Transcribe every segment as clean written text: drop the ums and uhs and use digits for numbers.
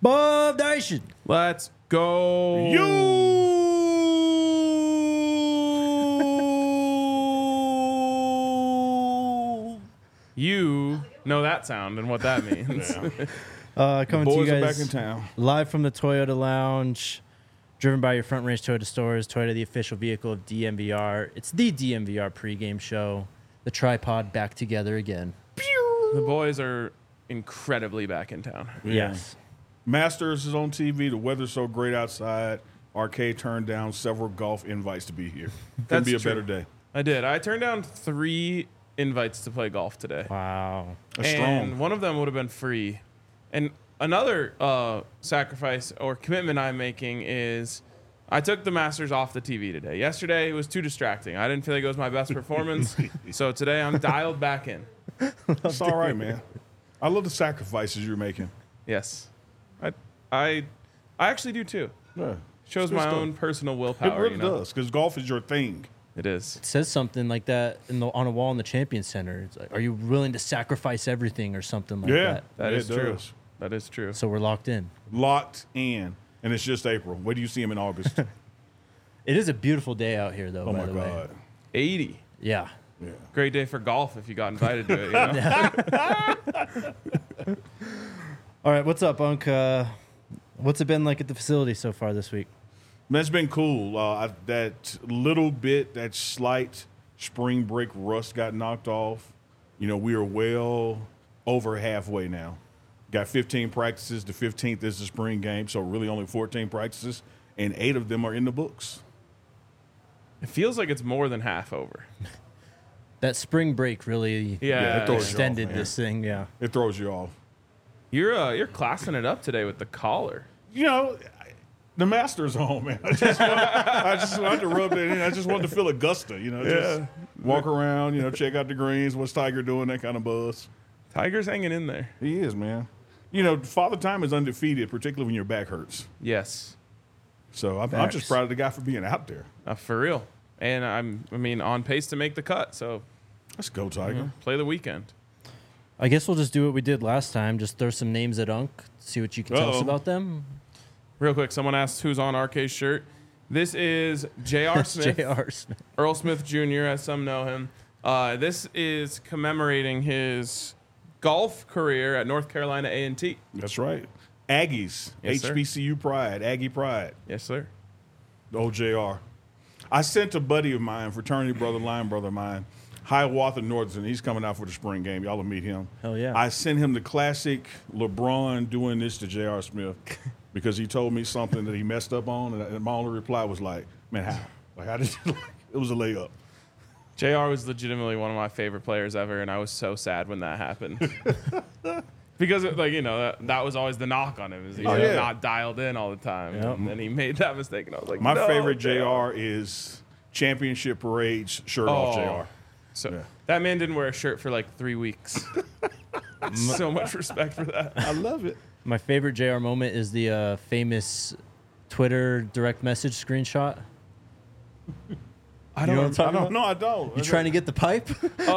Bob Nation. Let's go. You know that sound and what that means. Coming to you Boys are guys back in town. live from the Toyota Lounge, driven by your Front Range Toyota stores. Toyota, the official vehicle of DMVR. It's the DMVR pregame show. The tripod back together again. The boys are incredibly back in town. Yes. Masters is on TV. The weather's so great outside. Arcade turned down several golf invites to be here. Couldn't That's be a true. better day. I did. I turned down 3 invites to play golf today. Wow. That's And strong. one of them would have been free. And another sacrifice or commitment I'm making is I took the Masters off the TV today. Yesterday, it was too distracting. I didn't feel like it was my best performance. So today, I'm dialed back in. It's all right, man. I love the sacrifices you're making. Yes. I actually do, too. Yeah. Shows It's good my stuff. own personal It willpower, really you know? does, because golf is your thing. It is. It says something like that on a wall in the Champions Center. It's like, are you willing to sacrifice everything or something like Yeah, that? That it is true. does. That is true. So we're locked in. Locked in, and it's just April. Where do you see him in August? It is a beautiful day out here, though, Oh by my the way. God. 80. Yeah. Yeah. Great day for golf if you got invited to it, you know? All right, what's up, Unc? What's it been like at the facility so far this week? Man, it's been cool. That little bit, that slight spring break rust got knocked off. You know, we are well over halfway now. Got 15 practices. The 15th is the spring game, so really only 14 practices, and 8 of them are in the books. It feels like it's more than half over. That spring break really Yeah, it throws you off, extended man. this thing, yeah. It throws you off. You're classing it up today with the collar. You know, the Masters home, man. I just wanted to rub it in. I just wanted to feel Augusta, you know, just walk around, you know, check out the greens, what's Tiger doing, that kind of buzz. Tiger's hanging in there. He is, man. You know, Father Time is undefeated, particularly when your back hurts. Yes, So I'm Facts. just proud of the guy for being out there. for real. And I mean, on pace to make the cut. So Let's go, Tiger. play the weekend. I guess we'll just do what we did last time. Just throw some names at Unc, see what you can tell us Uh-oh. about them. Real quick, someone asked who's on RK's shirt. This is J.R. Smith, J.R. Smith. Earl Smith Jr., as some know him. This is commemorating his golf career at North Carolina A&T. That's right. Aggies, Yes, sir. HBCU pride, Aggie pride, Yes, sir. the old JR. I sent a buddy of mine, fraternity brother, line brother of mine, Hiawatha Northern. He's coming out for the spring game. Y'all will meet him. Hell yeah. I sent him the classic LeBron doing this to J.R. Smith because he told me something that he messed up on, and my only reply was like, man, how? Like, how did you, it was a layup. JR was legitimately one of my favorite players ever, and I was so sad when that happened. Because, that was always the knock on him, is he's yeah. not dialed in all the time. Yep. And then he made that mistake, and I was like, My no, favorite JR is championship parades, shirt off JR. So Yeah. that man didn't wear a shirt for like 3 weeks. So much respect for that. I love it. My favorite JR moment is the famous Twitter direct message screenshot. I You know what I'm don't. talking about? No, I don't. You trying to get the pipe?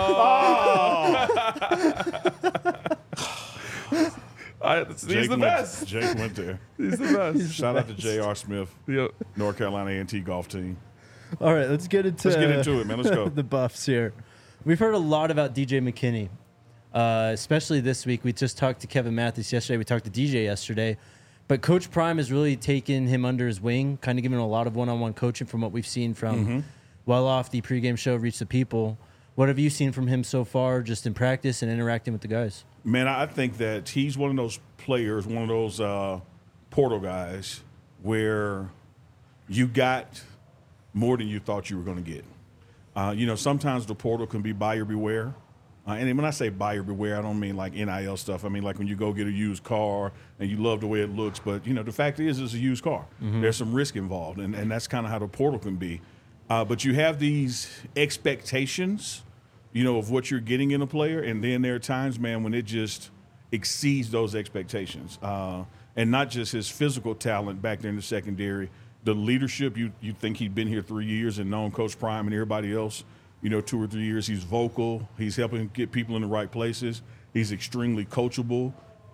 He's the best. Jake went there. He's the best. Shout out to J.R. Smith, Yep. North Carolina A&T golf team. All right, let's get into it, man. Let's go. the buffs here. We've heard a lot about DJ McKinney, especially this week. We just talked to Kevin Mathis yesterday. We talked to DJ yesterday. But Coach Prime has really taken him under his wing, kind of giving him a lot of one-on-one coaching from what we've seen from well off the pregame show, Reach the People. What have you seen from him so far just in practice and interacting with the guys? Man, I think that he's one of those players, one of those portal guys where you got more than you thought you were going to get. Sometimes the portal can be buyer beware. And when I say buyer beware, I don't mean like NIL stuff. I mean like when you go get a used car and you love the way it looks. But, the fact is it's a used car. There's some risk involved, and that's kind of how the portal can be. But you have these expectations, of what you're getting in a player. And then there are times, man, when it just exceeds those expectations. And not just his physical talent back there in the secondary, the leadership. You think he'd been here 3 years and known Coach Prime and everybody else, 2 or 3 years. He's vocal. He's helping get people in the right places. He's extremely coachable.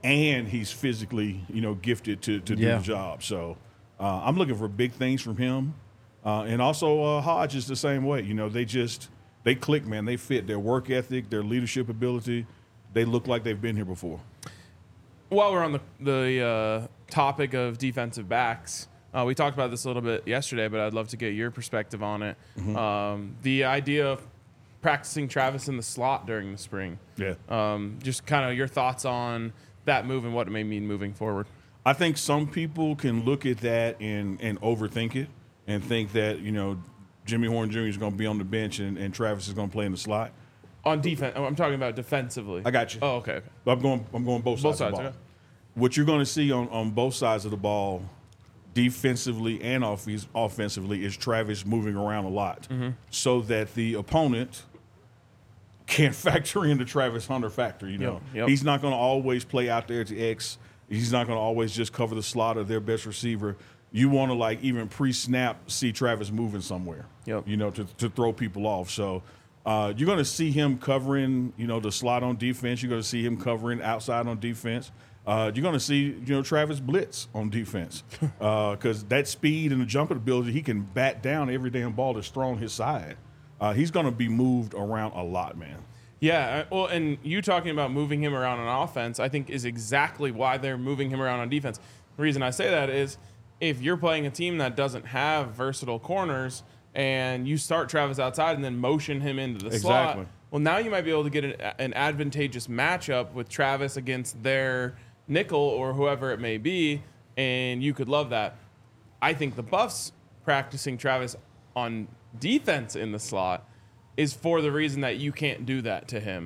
and he's physically, gifted to do Yeah. the job. So I'm looking for big things from him. And also Hodge is the same way. They click, man. They fit. Their work ethic, their leadership ability, they look like they've been here before. While we're on the topic of defensive backs, we talked about this a little bit yesterday, but I'd love to get your perspective on it. The idea of practicing Travis in the slot during the spring. Yeah. Just kind of your thoughts on that move and what it may mean moving forward. I think some people can look at that and overthink it and think that, Jimmy Horn Jr. is going to be on the bench and Travis is going to play in the slot. On defense, I'm talking about defensively. I got you. Oh, okay. I'm going both sides of the ball. Okay. What you're going to see on both sides of the ball, defensively and offensively, is Travis moving around a lot so that the opponent can't factor in the Travis Hunter factor. Yep. He's not going to always play out there to X. He's not going to always just cover the slot of their best receiver. You want to even pre-snap see Travis moving somewhere. Yep. To throw people off. So you're going to see him covering, the slot on defense. You're going to see him covering outside on defense. You're going to see, Travis blitz on defense because that speed and the jumping ability, he can bat down every damn ball that's thrown his side. He's going to be moved around a lot, man. Yeah, well, and you talking about moving him around on offense, I think is exactly why they're moving him around on defense. The reason I say that is if you're playing a team that doesn't have versatile corners and you start Travis outside and then motion him into the slot, well, now you might be able to get an advantageous matchup with Travis against their nickel or whoever it may be, and you could love that. I think the Buffs practicing Travis on defense in the slot is for the reason that you can't do that to him.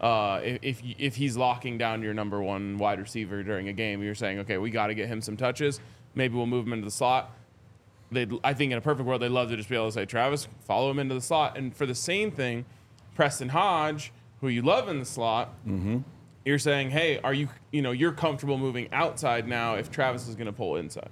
If he's locking down your number one wide receiver during a game, you're saying, okay, we got to get him some touches. Maybe we'll move him into the slot. I think in a perfect world, they'd love to just be able to say, Travis, follow him into the slot. And for the same thing, Preston Hodge, who you love in the slot, you're saying, hey, you're comfortable moving outside now if Travis is going to pull inside.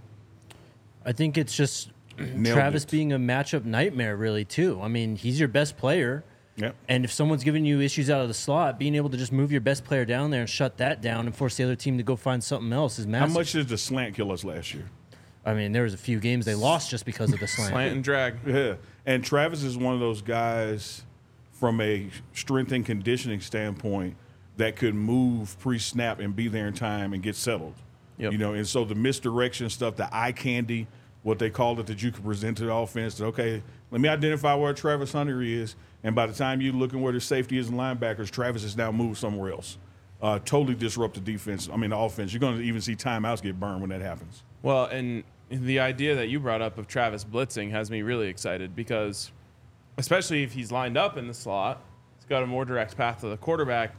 I think it's just Travis being a matchup nightmare, really, too. I mean, he's your best player. Yep. And if someone's giving you issues out of the slot, being able to just move your best player down there and shut that down and force the other team to go find something else is massive. How much did the slant kill us last year? I mean, there was a few games they lost just because of the slant. Slant and drag. Yeah. And Travis is one of those guys from a strength and conditioning standpoint that could move pre-snap and be there in time and get settled. Yep. And so the misdirection stuff, the eye candy, what they called it, that you could present to the offense, that, okay, let me identify where Travis Hunter is, and by the time you're looking where the safety is and linebackers, Travis is now moved somewhere else. Totally disrupt the defense. I mean, the offense. You're going to even see timeouts get burned when that happens. Well, and the idea that you brought up of Travis blitzing has me really excited because, especially if he's lined up in the slot, he's got a more direct path to the quarterback.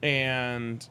And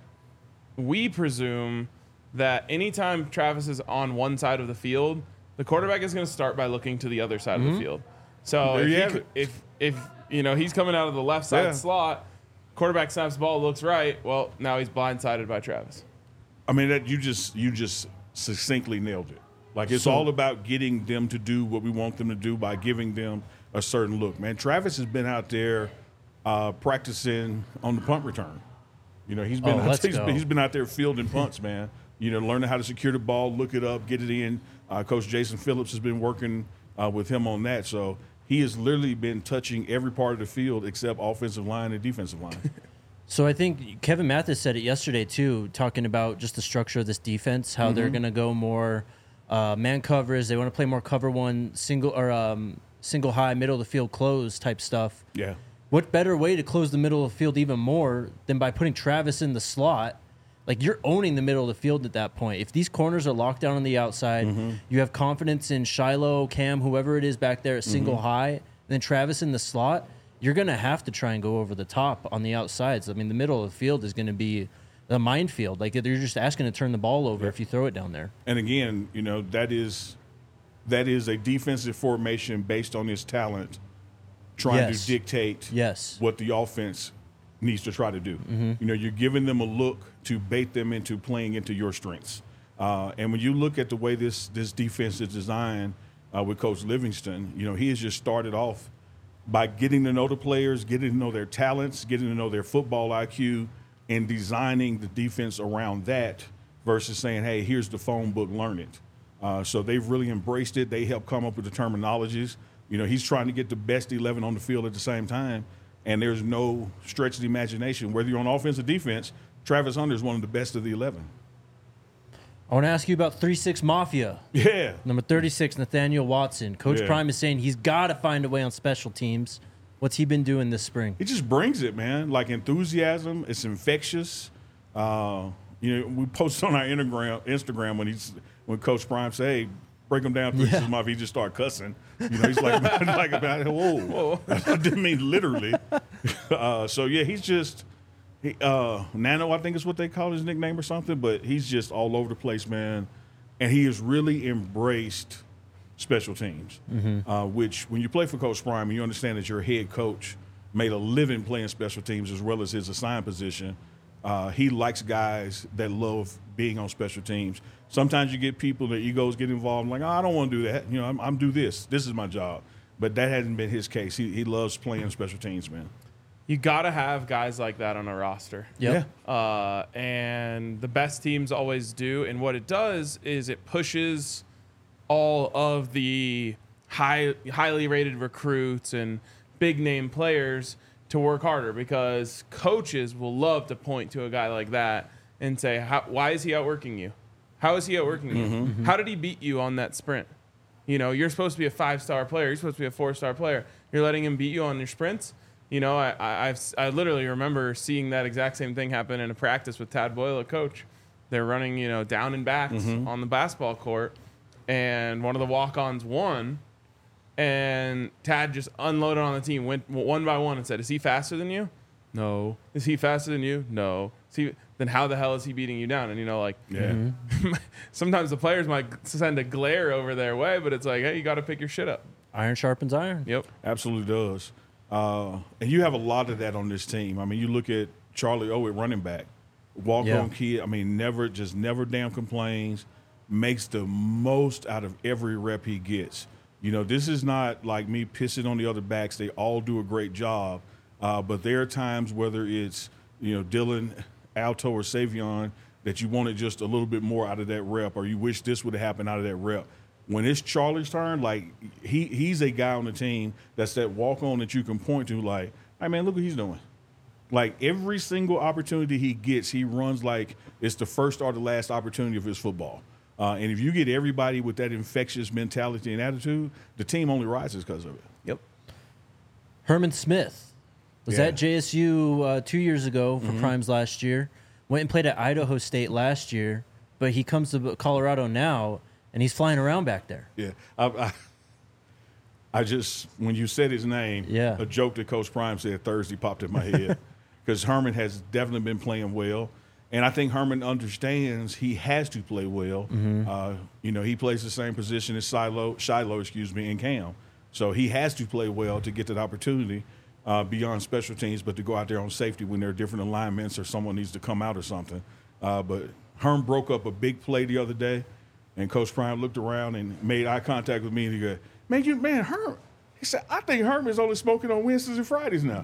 we presume that anytime Travis is on one side of the field, the quarterback is going to start by looking to the other side of the field. So if he's coming out of the left side slot, quarterback snaps the ball, looks right. Well, now he's blindsided by Travis. I mean, that you just succinctly nailed it. Like, it's all about getting them to do what we want them to do by giving them a certain look. Man, Travis has been out there practicing on the punt return. He's been out there fielding punts, man. Learning how to secure the ball, look it up, get it in. Coach Jason Phillips has been working with him on that. So he has literally been touching every part of the field except offensive line and defensive line. So I think Kevin Mathis said it yesterday, too, talking about just the structure of this defense, how they're going to go more man coverage. They want to play more cover one, single high, middle of the field close type stuff. Yeah. What better way to close the middle of the field even more than by putting Travis in the slot? Like, you're owning the middle of the field at that point. If these corners are locked down on the outside, you have confidence in Shiloh, Cam, whoever it is back there at single high, and then Travis in the slot, you're going to have to try and go over the top on the outsides. I mean, the middle of the field is going to be a minefield. Like, they're just asking to turn the ball over if you throw it down there. And again, that is a defensive formation based on his talent, trying to dictate what the offense needs to try to do. You're giving them a look to bait them into playing into your strengths. And when you look at the way this defense is designed with Coach Livingston, he has just started off by getting to know the players, getting to know their talents, getting to know their football IQ, and designing the defense around that versus saying, hey, here's the phone book, learn it. So they've really embraced it. They help come up with the terminologies. He's trying to get the best 11 on the field at the same time, and there's no stretch of the imagination. Whether you're on offense or defense, Travis Hunter is one of the best of the 11. I want to ask you about 3-6 Mafia. Yeah. Number 36, Nathaniel Watson. Coach Yeah. Prime is saying he's got to find a way on special teams. What's he been doing this spring? He just brings it, man. Like enthusiasm, it's infectious. We posted on our Instagram when Coach Prime said, "Hey, break him down 3-6 Mafia," he just started cussing. He's like, whoa. I didn't mean literally. He's just Nano, I think is what they call his nickname or something. But he's just all over the place, man. And he has really embraced special teams, which when you play for Coach Prime, you understand that your head coach made a living playing special teams as well as his assigned position. He likes guys that love being on special teams. Sometimes you get people, their egos get involved, like, I don't want to do that. I'm do this. This is my job. But that hasn't been his case. He loves playing special teams, man. You got to have guys like that on a roster. Yep. Yeah. And the best teams always do. And what it does is it pushes all of the highly rated recruits and big name players to work harder, because coaches will love to point to a guy like that and say, why is he outworking you? How is he outworking you? How did he beat you on that sprint? You're supposed to be a 5-star player. You're supposed to be a 4-star player. You're letting him beat you on your sprints. I literally remember seeing that exact same thing happen in a practice with Tad Boyle, a coach. They're running, down and backs on the basketball court, and one of the walk-ons won, and Tad just unloaded on the team, went one by one and said, "Is he faster than you? No. Is he faster than you? No. Then how the hell is he beating you down?" And sometimes the players might send a glare over their way, but it's like, hey, you got to pick your shit up. Iron sharpens iron. Yep. Absolutely does. And you have a lot of that on this team. I mean, you look at Charlie O at running back, walk-on kid. I mean, never damn complains, makes the most out of every rep he gets. This is not like me pissing on the other backs. They all do a great job. But there are times, whether it's, Dylan, Alto, or Savion, that you wanted just a little bit more out of that rep, or you wish this would have happened out of that rep. When it's Charlie's turn, like he's a guy on the team that's that walk-on that you can point to, like, hey, man, look what he's doing. Like every single opportunity he gets, he runs like it's the first or the last opportunity of his football. And if you get everybody with that infectious mentality and attitude, the team only rises because of it. Yep. Herman Smith was Yeah. at JSU 2 years ago for Primes last year. Went and played at Idaho State last year, but he comes to Colorado now, and he's flying around back there. Yeah. I just, when you said his name, a joke that Coach Prime said Thursday popped in my head, because Herman has definitely been playing well. And I think Herman understands he has to play well. He plays the same position as Shiloh, in Cam. So he has to play well to get that opportunity beyond special teams, but to go out there on safety when there are different alignments or someone needs to come out or something. But Herm broke up a big play the other day, and Coach Prime looked around and made eye contact with me, and he goes, man, Herm. He said, I think Herm is only smoking on Wednesdays and Fridays now.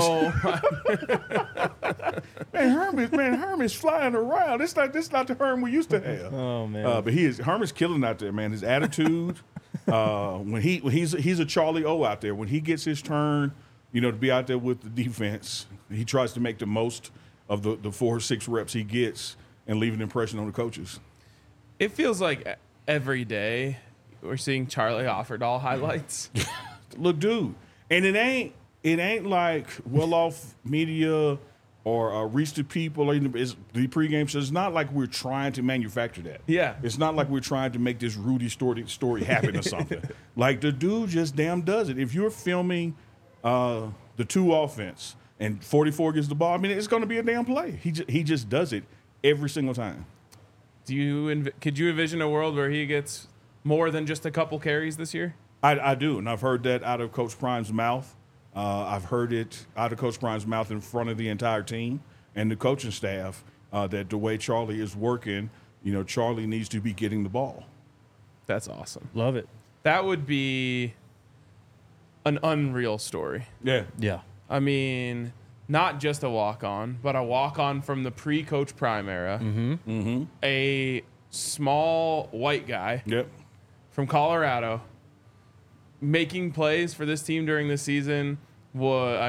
Herm is flying around. This not the Herm we used to have. Oh man! But Herm is killing out there, man. His attitude, when he's a Charlie O out there. When he gets his turn, to be out there with the defense, he tries to make the most of the 4 or 6 reps he gets and leave an impression on the coaches. It feels like every day we're seeing Charlie Offerdahl highlights. Look, dude, and it ain't like well-off media or reach the people. It's the pregame show. It's not like we're trying to manufacture that. Yeah. It's not like we're trying to make this Rudy story happen or something. Like, the dude just damn does it. If you're filming the 2 offense and 44 gets the ball, I mean, it's going to be a damn play. He just does it every single time. Could you envision a world where he gets more than just a couple carries this year? I do, and I've heard that out of Coach Prime's mouth. I've heard it out of Coach Prime's mouth in front of the entire team and the coaching staff, that the way Charlie is working, Charlie needs to be getting the ball. That's awesome. Love it. That would be an unreal story. Yeah. Yeah. I mean, not just a walk-on, but a walk-on from the pre-Coach Prime era. A small white guy Yep. from Colorado making plays for this team during the season. The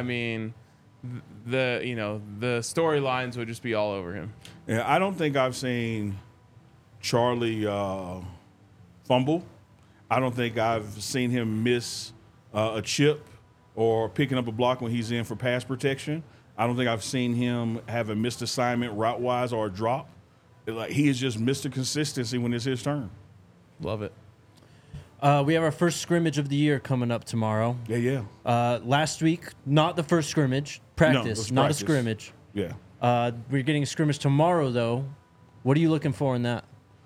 storylines would just be all over him. Yeah, I don't think I've seen Charlie fumble. I don't think I've seen him miss a chip or picking up a block when he's in for pass protection. I don't think I've seen him have a missed assignment route-wise or a drop. Like, he has just missed the consistency when it's his turn. Love it. We have our first scrimmage of the year coming up tomorrow. Yeah. Last week, not the first scrimmage, No, it practice, was not practice. a scrimmage. Yeah. We're getting a scrimmage tomorrow, though. What are you looking for in that?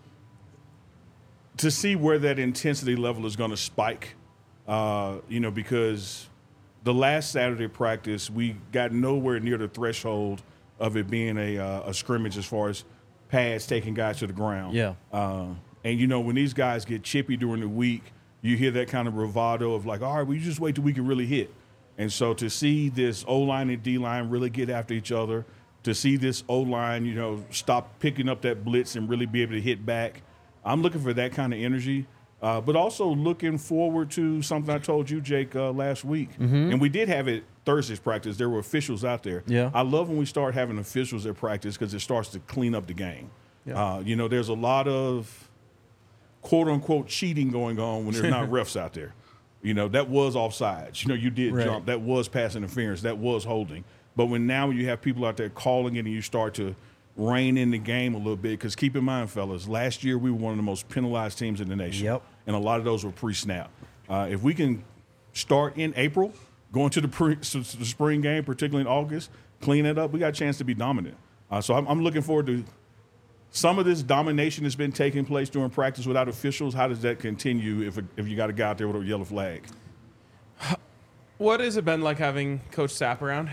To see where that intensity level is going to spike, because the last Saturday practice, we got nowhere near the threshold of it being a scrimmage as far as pads taking guys to the ground. Yeah. And, when these guys get chippy during the week, you hear that kind of bravado of like, all right, we just wait till we can really hit. And so to see this O-line and D-line really get after each other, to see this O-line, stop picking up that blitz and really be able to hit back, I'm looking for that kind of energy. But also looking forward to something I told you, Jake, last week. And we did have it Thursday's practice. There were officials out there. Yeah. I love when we start having officials at practice because it starts to clean up the game. Yeah. There's a lot of quote-unquote cheating going on when there's not refs out there. That was offsides. You did Right. jump. That was pass interference. That was holding. But when you have people out there calling it and you start to rein in the game a little bit, because keep in mind, fellas, last year we were one of the most penalized teams in the nation. Yep. And a lot of those were pre-snap. If we can start in April, going to the spring game, particularly in August, clean it up, we got a chance to be dominant. So I'm looking forward to some of this domination that's been taking place during practice without officials. How does that continue if you got a guy out there with a yellow flag? What has it been like having Coach Sapp around?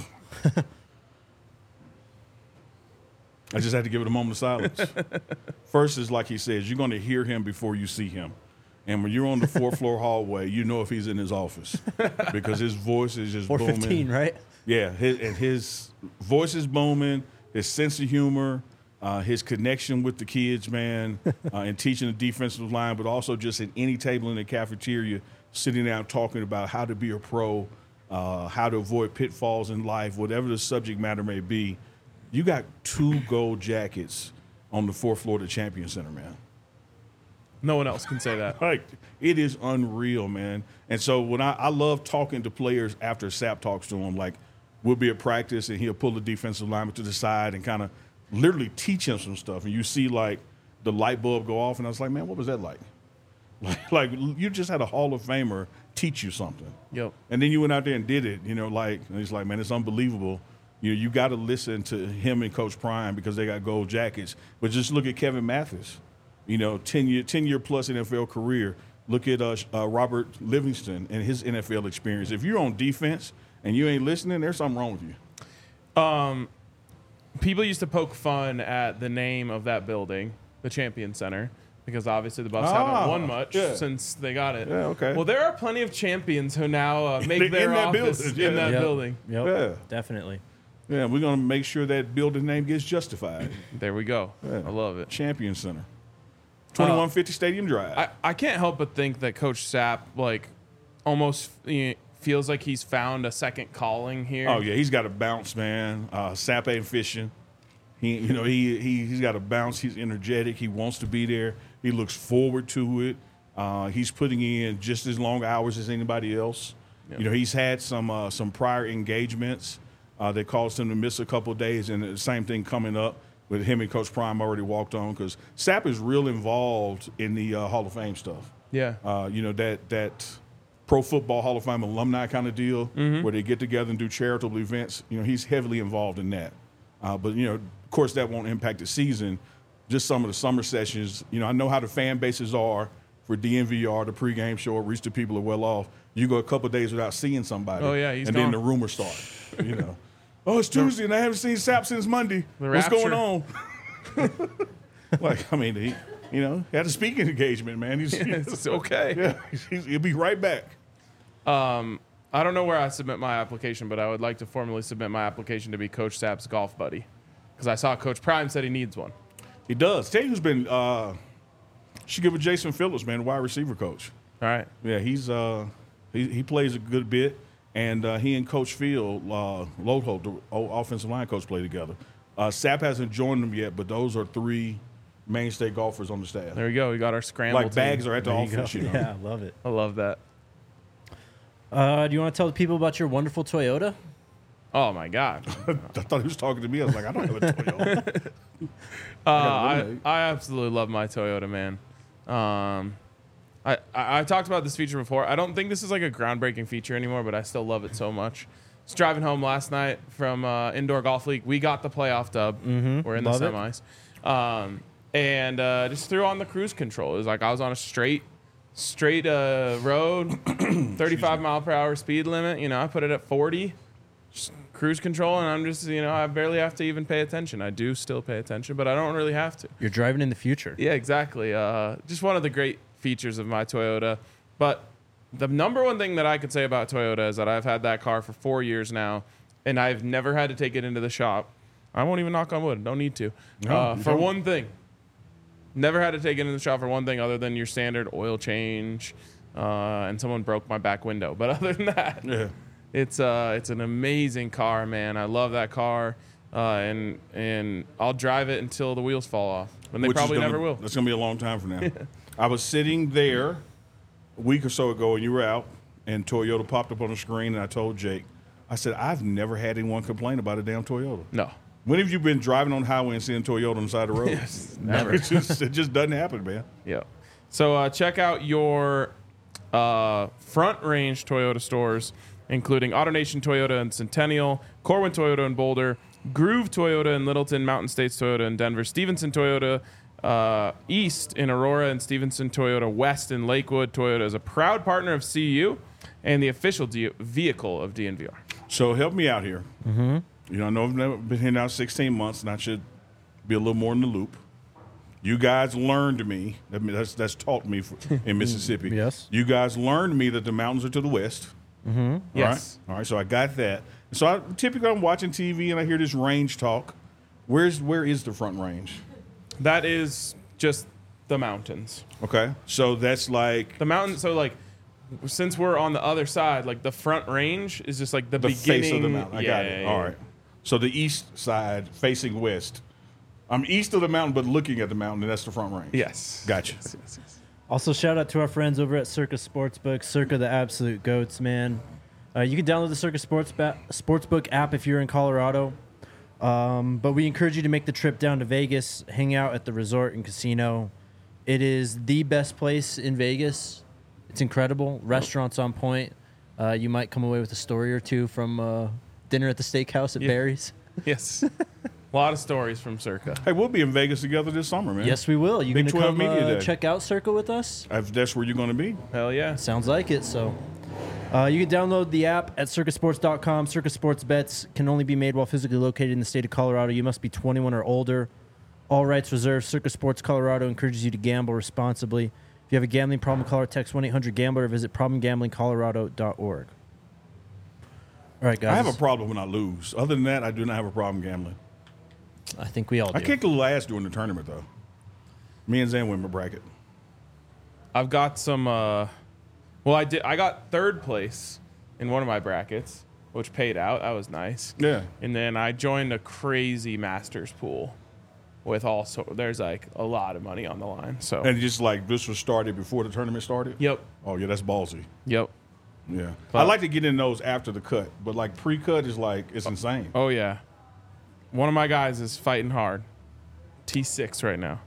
I just had to give it a moment of silence. First is like he says, you're going to hear him before you see him. And when you're on the fourth floor hallway, you know if he's in his office because his voice is just booming. 4:15, right? Yeah, his voice is booming, his sense of humor, his connection with the kids, man, and teaching the defensive line, but also just at any table in the cafeteria, sitting down talking about how to be a pro, how to avoid pitfalls in life, whatever the subject matter may be. You got 2 gold jackets on the 4th floor of the Champion Center, man. No one else can say that. Like, it is unreal, man. And so when I love talking to players after Sapp talks to them, like we'll be at practice and he'll pull the defensive lineman to the side and kind of literally teach him some stuff. And you see like the light bulb go off and I was like, man, what was that like? Like you just had a Hall of Famer teach you something. Yep. And then you went out there and did it, and he's like, man, it's unbelievable. You got to listen to him and Coach Prime because they got gold jackets. But just look at Kevin Mathis, 10-year plus NFL career. Look at Robert Livingston and his NFL experience. If you're on defense and you ain't listening, there's something wrong with you. People used to poke fun at the name of that building, the Champion Center, because obviously the Buffs haven't won much since they got it. Yeah, okay. Well, there are plenty of champions who now make In their that office building, in yeah. that Yep. building. Yep. Yeah. Definitely. Yeah, we're going to make sure that building name gets justified. There we go. Yeah. I love it. Champion Center. 2150 Stadium Drive. I can't help but think that Coach Sapp almost feels like he's found a second calling here. Oh, yeah, he's got a bounce, man. Sapp ain't fishing. He's got a bounce. He's energetic. He wants to be there. He looks forward to it. He's putting in just as long hours as anybody else. Yep. He's had some prior engagements that caused him to miss a couple of days, and the same thing coming up with him and Coach Prime already walked on because Sapp is real involved in the Hall of Fame stuff. Yeah. That Pro Football Hall of Fame alumni kind of deal where they get together and do charitable events. He's heavily involved in that. But of course, that won't impact the season. Just some of the summer sessions. I know how the fan bases are for DNVR, the pregame show, Reach the People are well off. You go a couple of days without seeing somebody. Oh, yeah, he's and gone. then the rumors start. Oh, it's Tuesday and I haven't seen Sapp since Monday. The What's rapture. going on? He had a speaking engagement, man. It's okay. Yeah, he'll be right back. I I don't know where I submit my application, but I would like to formally submit my application to be Coach Sapp's golf buddy, because I saw Coach Prime said he needs one. He does. Tell you who's been. Should give it Jason Phillips, man, wide receiver coach. All right. Yeah, he's he plays a good bit, and he and Coach Field, Lodholt, the old offensive line coach, play together. Sapp hasn't joined them yet, but those are 3 mainstay golfers on the staff. There we go. We got our scramble. Like bags are at the There you office, go. you know. Yeah, I love it. I love that. Do you want to tell the people about your wonderful Toyota? Oh my God. I thought he was talking to me. I was like, I don't have a Toyota. I absolutely love my Toyota, man. I talked about this feature before. I don't think this is like a groundbreaking feature anymore, but I still love it so much. I was driving home last night from Indoor Golf League. We got the playoff dub. We're in Love the it. semis. And just threw on the cruise control. It was like I was on a straight road, 35 mile per hour speed limit. You know, I put it at 40, just cruise control, and I'm just, I barely have to even pay attention. I do still pay attention, but I don't really have to. You're driving in the future. Yeah, exactly. Just one of the great features of my Toyota. But the number one thing that I could say about Toyota is that I've had that car for 4 years now, and I've never had to take it into the shop. I won't even knock on wood. Don't need to. No, you For don't. one thing. Never had to take it into the shop for one thing other than your standard oil change, and someone broke my back window. But other than that, Yeah. it's an amazing car, man. I love that car, and I'll drive it until the wheels fall off, and they Which is probably gonna- never will. That's going to be a long time from now. I was sitting there a week or so ago, and you were out, and Toyota popped up on the screen, and I told Jake, I said, I've never had anyone complain about a damn Toyota. No, When have you been driving on the highway and seeing Toyota on the side of the road? never. it just doesn't happen, man. Yeah. So check out your Front Range Toyota stores, including AutoNation Toyota in Centennial, Corwin Toyota in Boulder, Groove Toyota in Littleton, Mountain States Toyota in Denver, Stevenson Toyota East in Aurora, and Stevenson Toyota West in Lakewood. Toyota is a proud partner of CU and the official vehicle of DNVR. So help me out here. Mm-hmm. I know I've never been here now 16 months, and I should be a little more in the loop. You guys learned me. I mean, that's taught me in Mississippi. Yes. You guys learned me that the mountains are to the west. Mm-hmm. Yes. All right. So I got that. So typically I'm watching TV and I hear this range talk. Where is the Front Range? That is just the mountains. Okay. So that's like The mountain. So like, since we're on the other side, like the Front Range is just like the the beginning. face of the mountain. I got it. yeah, All yeah. right. So the east side facing west. I'm east of the mountain, but looking at the mountain, and that's the Front Range. Yes. Gotcha. Yes, yes, yes. Also, shout out to our friends over at Circa Sportsbook. Circa, the absolute goats, man. You can download the Circa Sportsbook app if you're in Colorado. But we encourage you to make the trip down to Vegas, hang out at the resort and casino. It is the best place in Vegas. It's incredible. Restaurants on point. You might come away with a story or two from dinner at the steakhouse at Yeah. Barry's. Yes. A lot of stories from Circa. Hey, we'll be in Vegas together this summer, man. Yes, we will. You Big going to 12 come Media Day. check out Circa with us? If that's where you're going to be. Hell yeah. Sounds like it. So you can download the app at circusports.com. Circa Sports bets can only be made while physically located in the state of Colorado. You must be 21 or older. All rights reserved. Circa Sports Colorado encourages you to gamble responsibly. If you have a gambling problem, call or text 1-800-GAMBLER or visit problemgamblingcolorado.org. All right, guys. I have a problem when I lose. Other than that, I do not have a problem gambling. I think we all do. I kicked the last during the tournament, though. Me and Zan win my bracket. I've got some. Well, I got third place in one of my brackets, which paid out. That was nice. Yeah. And then I joined a crazy Masters pool with also. There's like a lot of money on the line. So. And just like this was started before the tournament started? Yep. Oh, yeah, that's ballsy. Yep. Yeah. But- I like to get in those after the cut, but like pre-cut is like, it's insane. Oh yeah. One of my guys is fighting hard. T6 right now.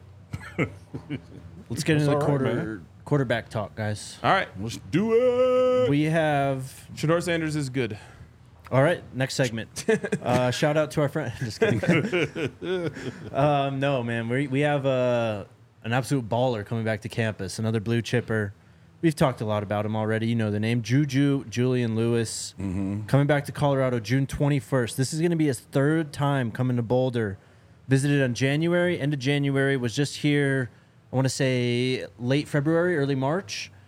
Let's get into the all right, man. quarterback talk, guys. All right. Let's do it. We have... Shador Sanders is good. All right, next segment. Shout out to our friend. Just kidding. No, man, we have an absolute baller coming back to campus. Another blue chipper. We've talked a lot about him already. You know the name, Julian Lewis, coming back to Colorado June 21st. This is going to be his third time coming to Boulder. Visited on January, end of January. Was just here, I want to say late February, early March.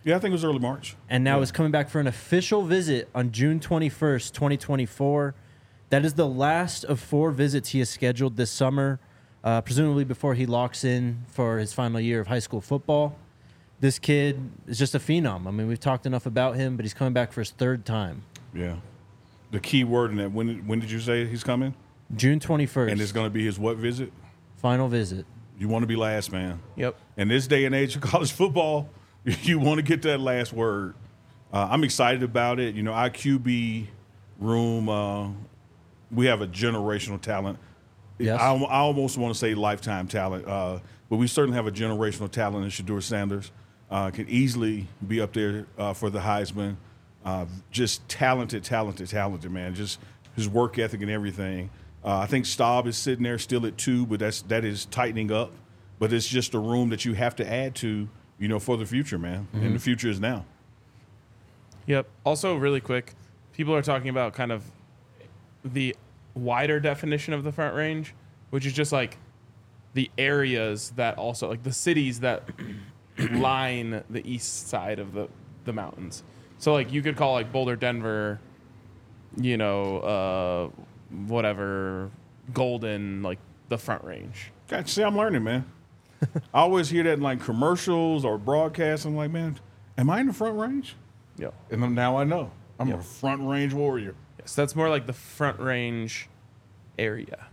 Yeah, I think it was early March. And now is coming back for an official visit on June 21st, 2024. That is the last of 4 visits he has scheduled this summer, presumably before he locks in for his final year of high school football. This kid is just a phenom. I mean, we've talked enough about him, but he's coming back for his 3rd time. Yeah. The key word in that, when did you say he's coming? June 21st. And it's going to be his what visit? Final visit. You want to be last, man. Yep. In this day and age of college football, you want to get that last word. I'm excited about it. You know, our QB room, we have a generational talent. Yes. I almost want to say lifetime talent, but we certainly have a generational talent in Shedeur Sanders. Can easily be up there for the Heisman. Just talented, man. Just his work ethic and everything. I think Staub is sitting there still at 2, but that is tightening up. But it's just a room that you have to add to, you know, for the future, man. Mm-hmm. And the future is now. Yep. Also, really quick, people are talking about kind of the wider definition of the Front Range, which is just like the areas that also, like the cities that line the east side of the mountains. So, like, you could call, like, Boulder, Denver, you know, whatever, Golden, like, the Front Range. God, see, I'm learning, man. I always hear that in, like, commercials or broadcasts. I'm like, man, am I in the Front Range? Yep. And then now I know. I'm Yep. a Front Range warrior. Yes, that's more like the Front Range area.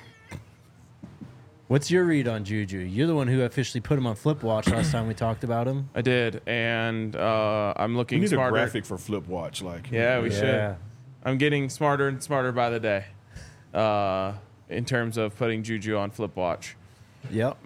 What's your read on Juju? You're the one who officially put him on Flip Watch last time we talked about him. I did, and I'm We looking need smarter. a graphic for Flip Watch. Like, Yeah, we should. I'm getting smarter and smarter by the day in terms of putting Juju on Flip Watch. Yep.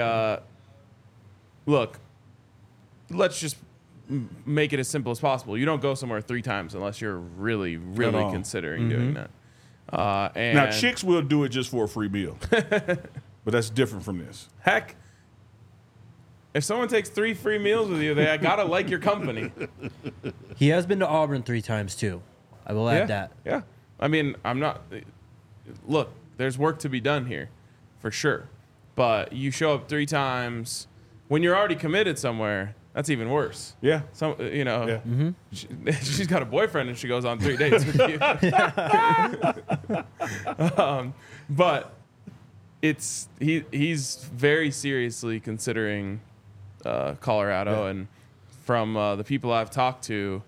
Look, let's just make it as simple as possible. You don't go somewhere 3 times unless you're really, really all. considering doing that. And Now, chicks will do it just for a free meal. But that's different from this. heck, if someone takes 3 free meals with you, they gotta like your company. He has been to Auburn 3 times, too. I will add that. Yeah. I mean, I'm not. Look, there's work to be done here, for sure. But you show up 3 times when you're already committed somewhere. That's even worse. Yeah. Some, you know, Yeah. she's got a boyfriend and she goes on 3 dates with you. But he's very seriously considering Colorado, and from the people I've talked to,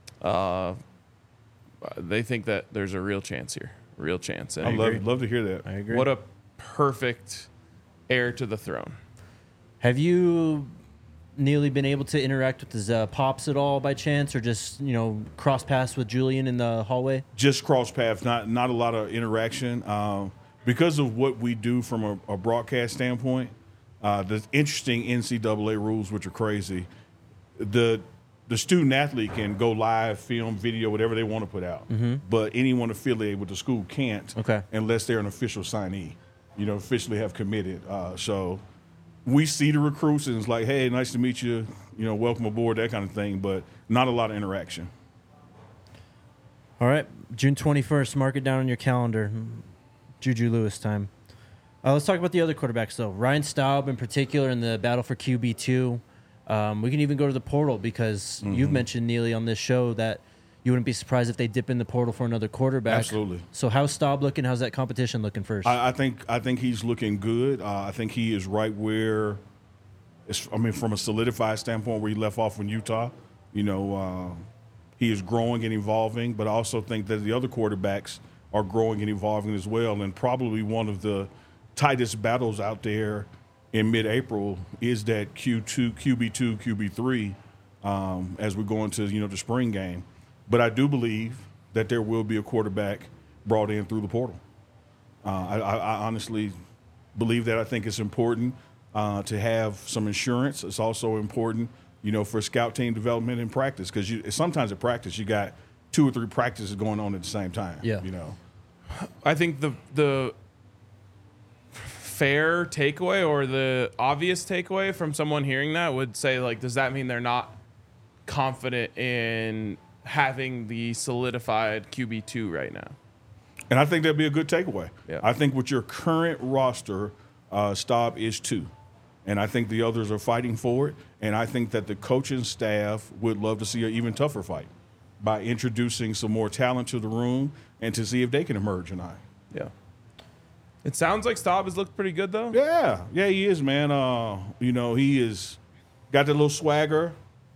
they think that there's a real chance here. Real chance. And I love to hear that. I agree. what a perfect heir to the throne. Have you, Neely, been able to interact with his pops at all by chance, or just, you know, cross paths with Julian in the hallway? Just cross paths, not a lot of interaction. Because of what we do from a broadcast standpoint, the interesting NCAA rules, which are crazy, the student athlete can go live, film, video, whatever they want to put out. But anyone affiliated with the school can't, unless they're an official signee, you know, officially have committed. So we see the recruits and it's like, hey, nice to meet you, you know, welcome aboard, that kind of thing, but not a lot of interaction. All right, June 21st, mark it down on your calendar. Juju Lewis time. Let's talk about the other quarterbacks, though. Ryan Staub, in particular, in the battle for QB2. We can even go to the portal because you've mentioned, Neely, on this show that you wouldn't be surprised if they dip in the portal for another quarterback. Absolutely. So how's Staub looking? How's that competition looking first? I think he's looking good. I think he is right where, from a solidified standpoint, where he left off in Utah. You know, he is growing and evolving, but I also think that the other quarterbacks are growing and evolving as well. And probably one of the tightest battles out there in mid-April is that QB2, QB3 as we go into, you know, the spring game. But I do believe that there will be a quarterback brought in through the portal. I honestly believe that. I think it's important to have some insurance. It's also important, you know, for scout team development and practice, because sometimes at practice you got 2 or 3 practices going on at the same time. Yeah. You know, I think the fair takeaway or the obvious takeaway from someone hearing that would say, like, does that mean they're not confident in having the solidified QB2 right now? and I think that'd be a good takeaway. Yeah. I think with your current roster, Staub is 2. And I think the others are fighting for it. And I think that the coaching staff would love to see an even tougher fight by introducing some more talent to the room and to see if they can emerge or not. Yeah. It sounds like Staub has looked pretty good, though. Yeah, he is, man. He is got that little swagger,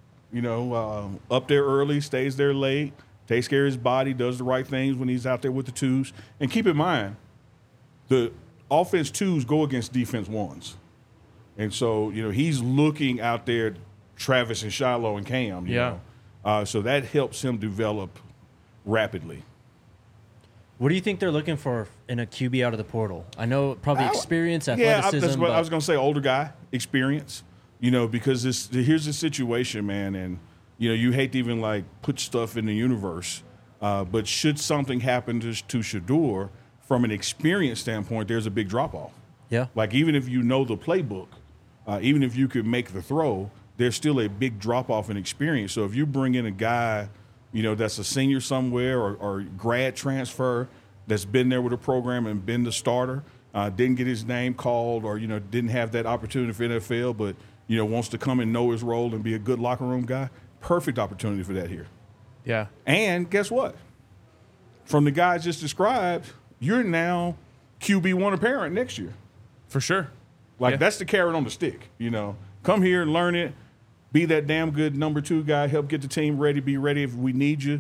up there early, stays there late, takes care of his body, does the right things when he's out there with the twos. And keep in mind, the offense twos go against defense ones. And so, he's looking out there, Travis and Shiloh and Cam, you know. So that helps him develop rapidly. What do you think they're looking for in a QB out of the portal? I know probably experience, athleticism. Yeah, that's what I was going to say, older guy, experience, because here's the situation, man, and, you hate to even, put stuff in the universe, but should something happen to Shedeur, from an experience standpoint, there's a big drop-off. Yeah. Even if you know the playbook, even if you could make the throw, there's still a big drop-off in experience. So if you bring in a guy, that's a senior somewhere or grad transfer that's been there with a program and been the starter, didn't get his name called or, didn't have that opportunity for NFL, but, wants to come and know his role and be a good locker room guy, perfect opportunity for that here. Yeah. And guess what? From the guys just described, you're now QB1 apparent next year. For sure. That's the carrot on the stick, Come here and learn it. Be that damn good number 2 guy. Help get the team ready. Be ready if we need you.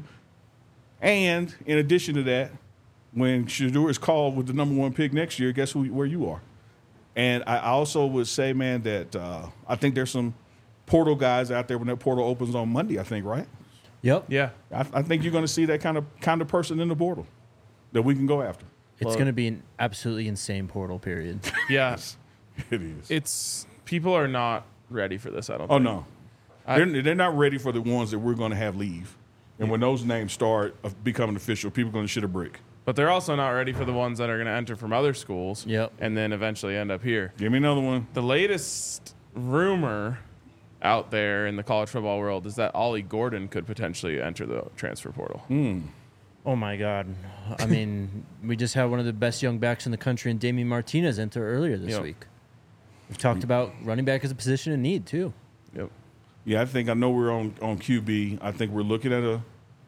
And in addition to that, when Shedeur is called with the number 1 pick next year, guess where you are? And I also would say, man, that I think there's some portal guys out there when that portal opens on Monday, I think, right? Yep. Yeah. I think you're going to see that kind of person in the portal that we can go after. It's going to be an absolutely insane portal period. Yeah. It is. It's people are not ready for this, I don't Oh, think. no. They're not ready for the ones that we're going to have leave. And when those names start becoming official, people are going to shit a brick. But they're also not ready for the ones that are going to enter from other schools. Yep. And then eventually end up here. Give me another one. The latest rumor out there in the college football world is that Ollie Gordon could potentially enter the transfer portal. Oh, my God. I mean, we just had one of the best young backs in the country in Damian Martinez enter earlier this week. We've talked about running back as a position in need, too. Yep. Yeah, I know we're on QB. I think we're looking at a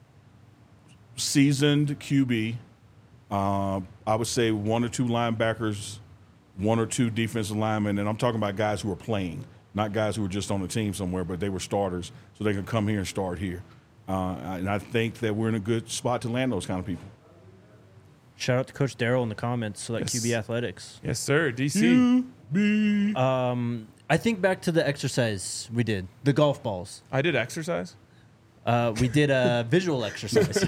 seasoned QB. I would say 1 or 2 linebackers, 1 or 2 defensive linemen, and I'm talking about guys who are playing, not guys who were just on the team somewhere, but they were starters, so they can come here and start here. And I think that we're in a good spot to land those kind of people. Shout out to Coach Darrell in the comments, so that QB Athletics. Yes, sir. DC. I think back to the exercise we did, the golf balls. I did exercise. We did a visual exercise.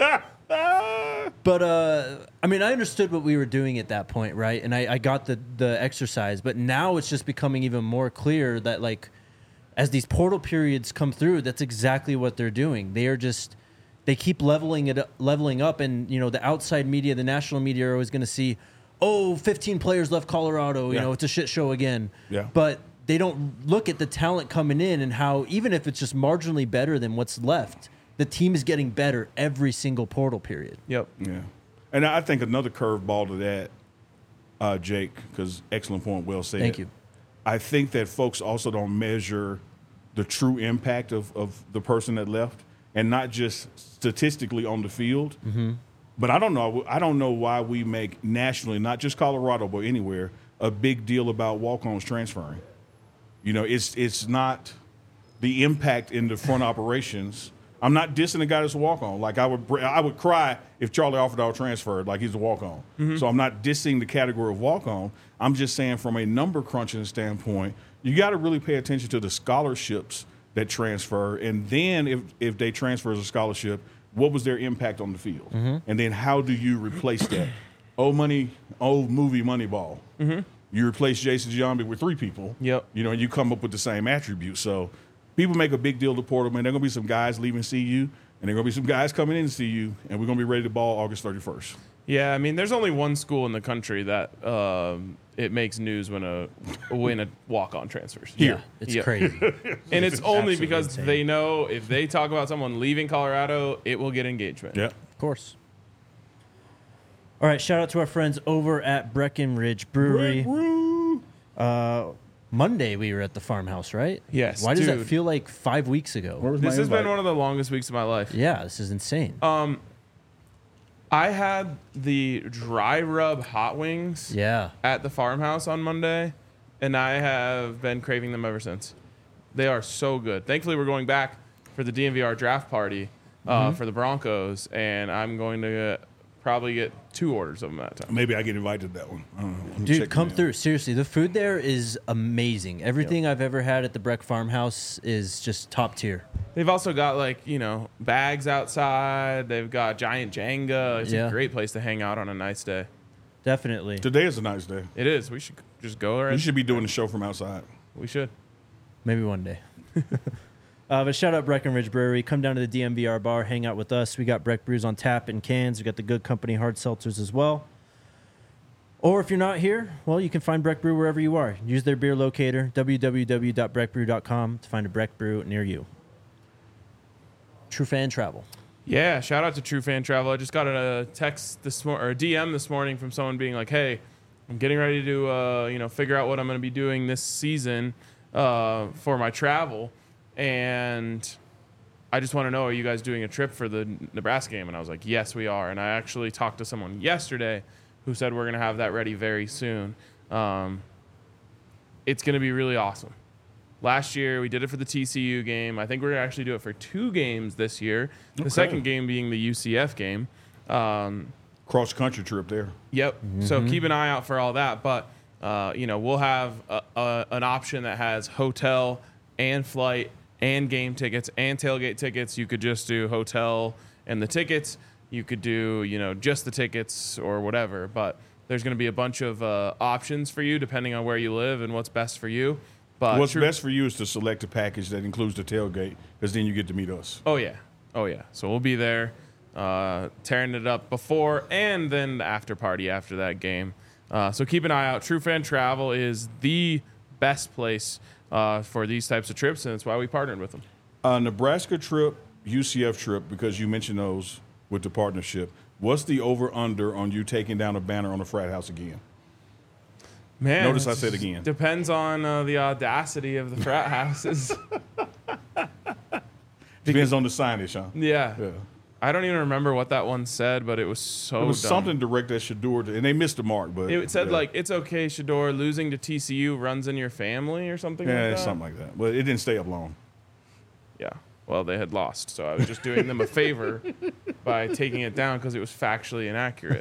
But, I mean, I understood what we were doing at that point, right? And I got the exercise. But now it's just becoming even more clear that, as these portal periods come through, that's exactly what they're doing. They keep leveling up. And, the outside media, the national media are always going to see, 15 players left Colorado. It's a shit show again. Yeah. But they don't look at the talent coming in and how, even if it's just marginally better than what's left, the team is getting better every single portal period. Yep. Yeah. And I think another curveball to that, Jake, because excellent point, well said. Thank you. I think that folks also don't measure the true impact of the person that left, and not just statistically on the field. Mm-hmm. But I don't know why we make nationally, not just Colorado, but anywhere, a big deal about walk-ons transferring. It's not the impact in the front operations. I'm not dissing the guy that's a walk-on. I would cry if Charlie Offerdahl transferred like he's a walk-on. Mm-hmm. So I'm not dissing the category of walk-on. I'm just saying from a number crunching standpoint, you got to really pay attention to the scholarships that transfer. And then if they transfer as a scholarship, what was their impact on the field? Mm-hmm. And then how do you replace that? Old movie Moneyball. Mm-hmm. You replace Jason Giambi with 3 people. Yep. And you come up with the same attributes. So people make a big deal of the portal, man. There are going to be some guys leaving CU, and there are going to be some guys coming in to CU, and we're going to be ready to ball August 31st. Yeah, I mean, there's only one school in the country that it makes news when a walk-on transfers. Yeah, it's crazy. And it's only because insane. they know if they talk about someone leaving Colorado, it will get engagement. Yeah. Of course. All right, shout out to our friends over at Breckenridge Brewery. Monday we were at the farmhouse, right? Yes, Why does that dude. feel like 5 weeks ago? Where was my This has invite? been one of the longest weeks of my life. Yeah, this is insane. I had the dry rub hot wings Yeah. at the farmhouse on Monday, and I have been craving them ever since. They are so good. Thankfully, we're going back for the DNVR draft party for the Broncos, and I'm going to probably get 2 orders of them that time. Maybe I get invited to that one. I don't know. I'm Dude, checking come it out. through. Seriously, the food there is amazing. Everything I've ever had at the Breck Farmhouse is just top tier. They've also got bags outside. They've got giant Jenga. It's Yeah. a great place to hang out on a nice day. Definitely. Today is a nice day. It is. We should just go You right. should be doing the show from outside. We should. Maybe one day. But shout out Breckenridge Brewery. Come down to the DMVR bar, hang out with us. We got Breck brews on tap in cans. We got the Good Company hard seltzers as well. Or if you're not here, well, you can find Breck Brew wherever you are. Use their beer locator, www.breckbrew.com, to find a Breck Brew near you. True Fan Travel. Yeah, shout out to True Fan Travel. I just got a text or a DM this morning from someone being like, "Hey, I'm getting ready to figure out what I'm going to be doing this season for my travel, and I just want to know, are you guys doing a trip for the Nebraska game?" And I was like, "Yes, we are." And I actually talked to someone yesterday who said we're going to have that ready very soon. It's going to be really awesome. Last year, we did it for the TCU game. I think we're going to actually do it for 2 games this year. The Okay. second game being the UCF game. Cross country trip there. Yep. So keep an eye out for all that. But, we'll have an option that has hotel and flight and game tickets and tailgate tickets. You could just do hotel and the tickets. You could do, just the tickets or whatever. But there's going to be a bunch of options for you depending on where you live and what's best for you. But What's best for you is to select a package that includes the tailgate, because then you get to meet us. Oh yeah. So we'll be there, tearing it up before and then the after party after that game. So keep an eye out. True Fan Travel is the best place for these types of trips, and that's why we partnered with them. Nebraska trip, UCF trip, because you mentioned those with the partnership. What's the over/under on you taking down a banner on a frat house again? Man, Notice I it said again. Depends on the audacity of the frat houses. Depends on the signage, huh? Yeah. Yeah. I don't even remember what that one said, but it was so It was dumb. something direct at Shador, and they missed the mark. But It said yeah. it's okay, Shador, losing to TCU runs in your family or something Yeah, like that. something like that. But it didn't stay up long. Yeah. Well, they had lost, so I was just doing them a favor by taking it down because it was factually inaccurate.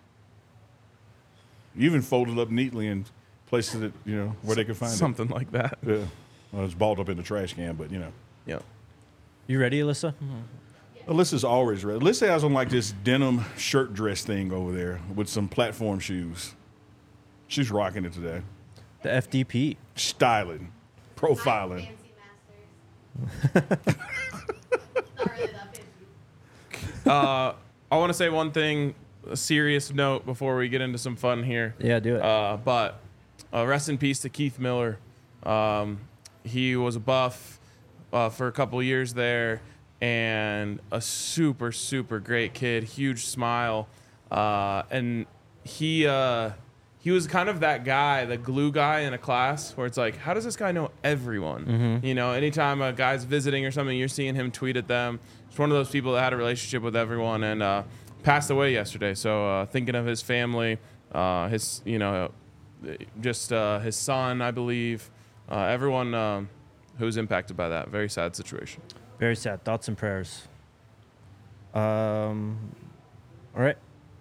You even folded up neatly and placed it, where they could find Something like that. it. Yeah. Well, it's balled up in the trash can, but Yeah. You ready, Alyssa? Alyssa's always ready. Alyssa has on like this denim shirt dress thing over there with some platform shoes. She's rocking it today. The FDP. Styling, profiling. I want to say one thing, a serious note before we get into some fun here. Yeah, do it. But rest in peace to Keith Miller. He was a Buff for a couple years there, and a super, super great kid, huge smile. And he was kind of that guy, the glue guy in a class where it's like, how does this guy know everyone? Anytime a guy's visiting or something, you're seeing him tweet at them. It's one of those people that had a relationship with everyone and passed away yesterday. So thinking of his family, his son, I believe, everyone who's impacted by that. Very sad situation. Very sad. Thoughts and prayers. All right.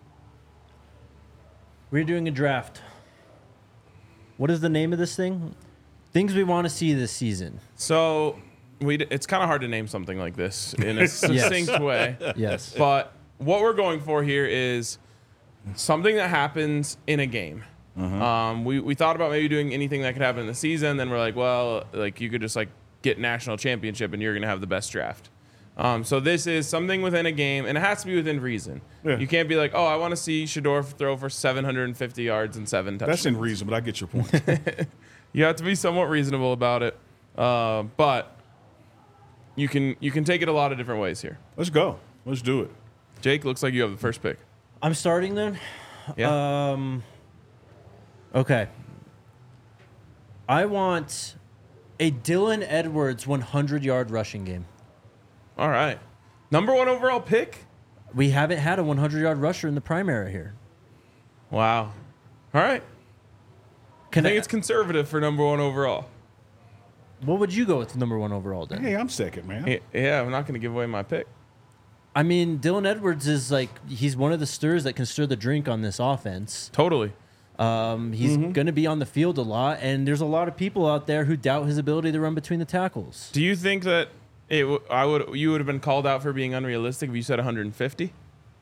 We're doing a draft. What is the name of this thing? Things we want to see this season. So it's kind of hard to name something like this in a succinct way. Yes. But what we're going for here is something that happens in a game. We thought about maybe doing anything that could happen in the season. Then we're like, well, like you could just like get national championship and you're going to have the best draft. So this is something within a game, and it has to be within reason. Yeah. You can't be like, oh, I want to see Shador throw for 750 yards and 7 touchdowns. That's in reason, but I get your point. You have to be somewhat reasonable about it. But you can take it a lot of different ways here. Let's go. Let's do it. Jake, looks like you have the first pick. I'm starting then. Yeah. Okay. I want a Dylan Edwards 100-yard rushing game. All right. Number 1 overall pick? We haven't had a 100-yard rusher in the prime era here. Wow. All right. I think it's conservative for number 1 overall. What would you go with number 1 overall then? Hey, I'm second, man. Yeah, I'm not going to give away my pick. I mean, Dylan Edwards is he's one of the stirs that can stir the drink on this offense. Totally. He's going to be on the field a lot, and there's a lot of people out there who doubt his ability to run between the tackles. Do you think that you would have been called out for being unrealistic if you said 150?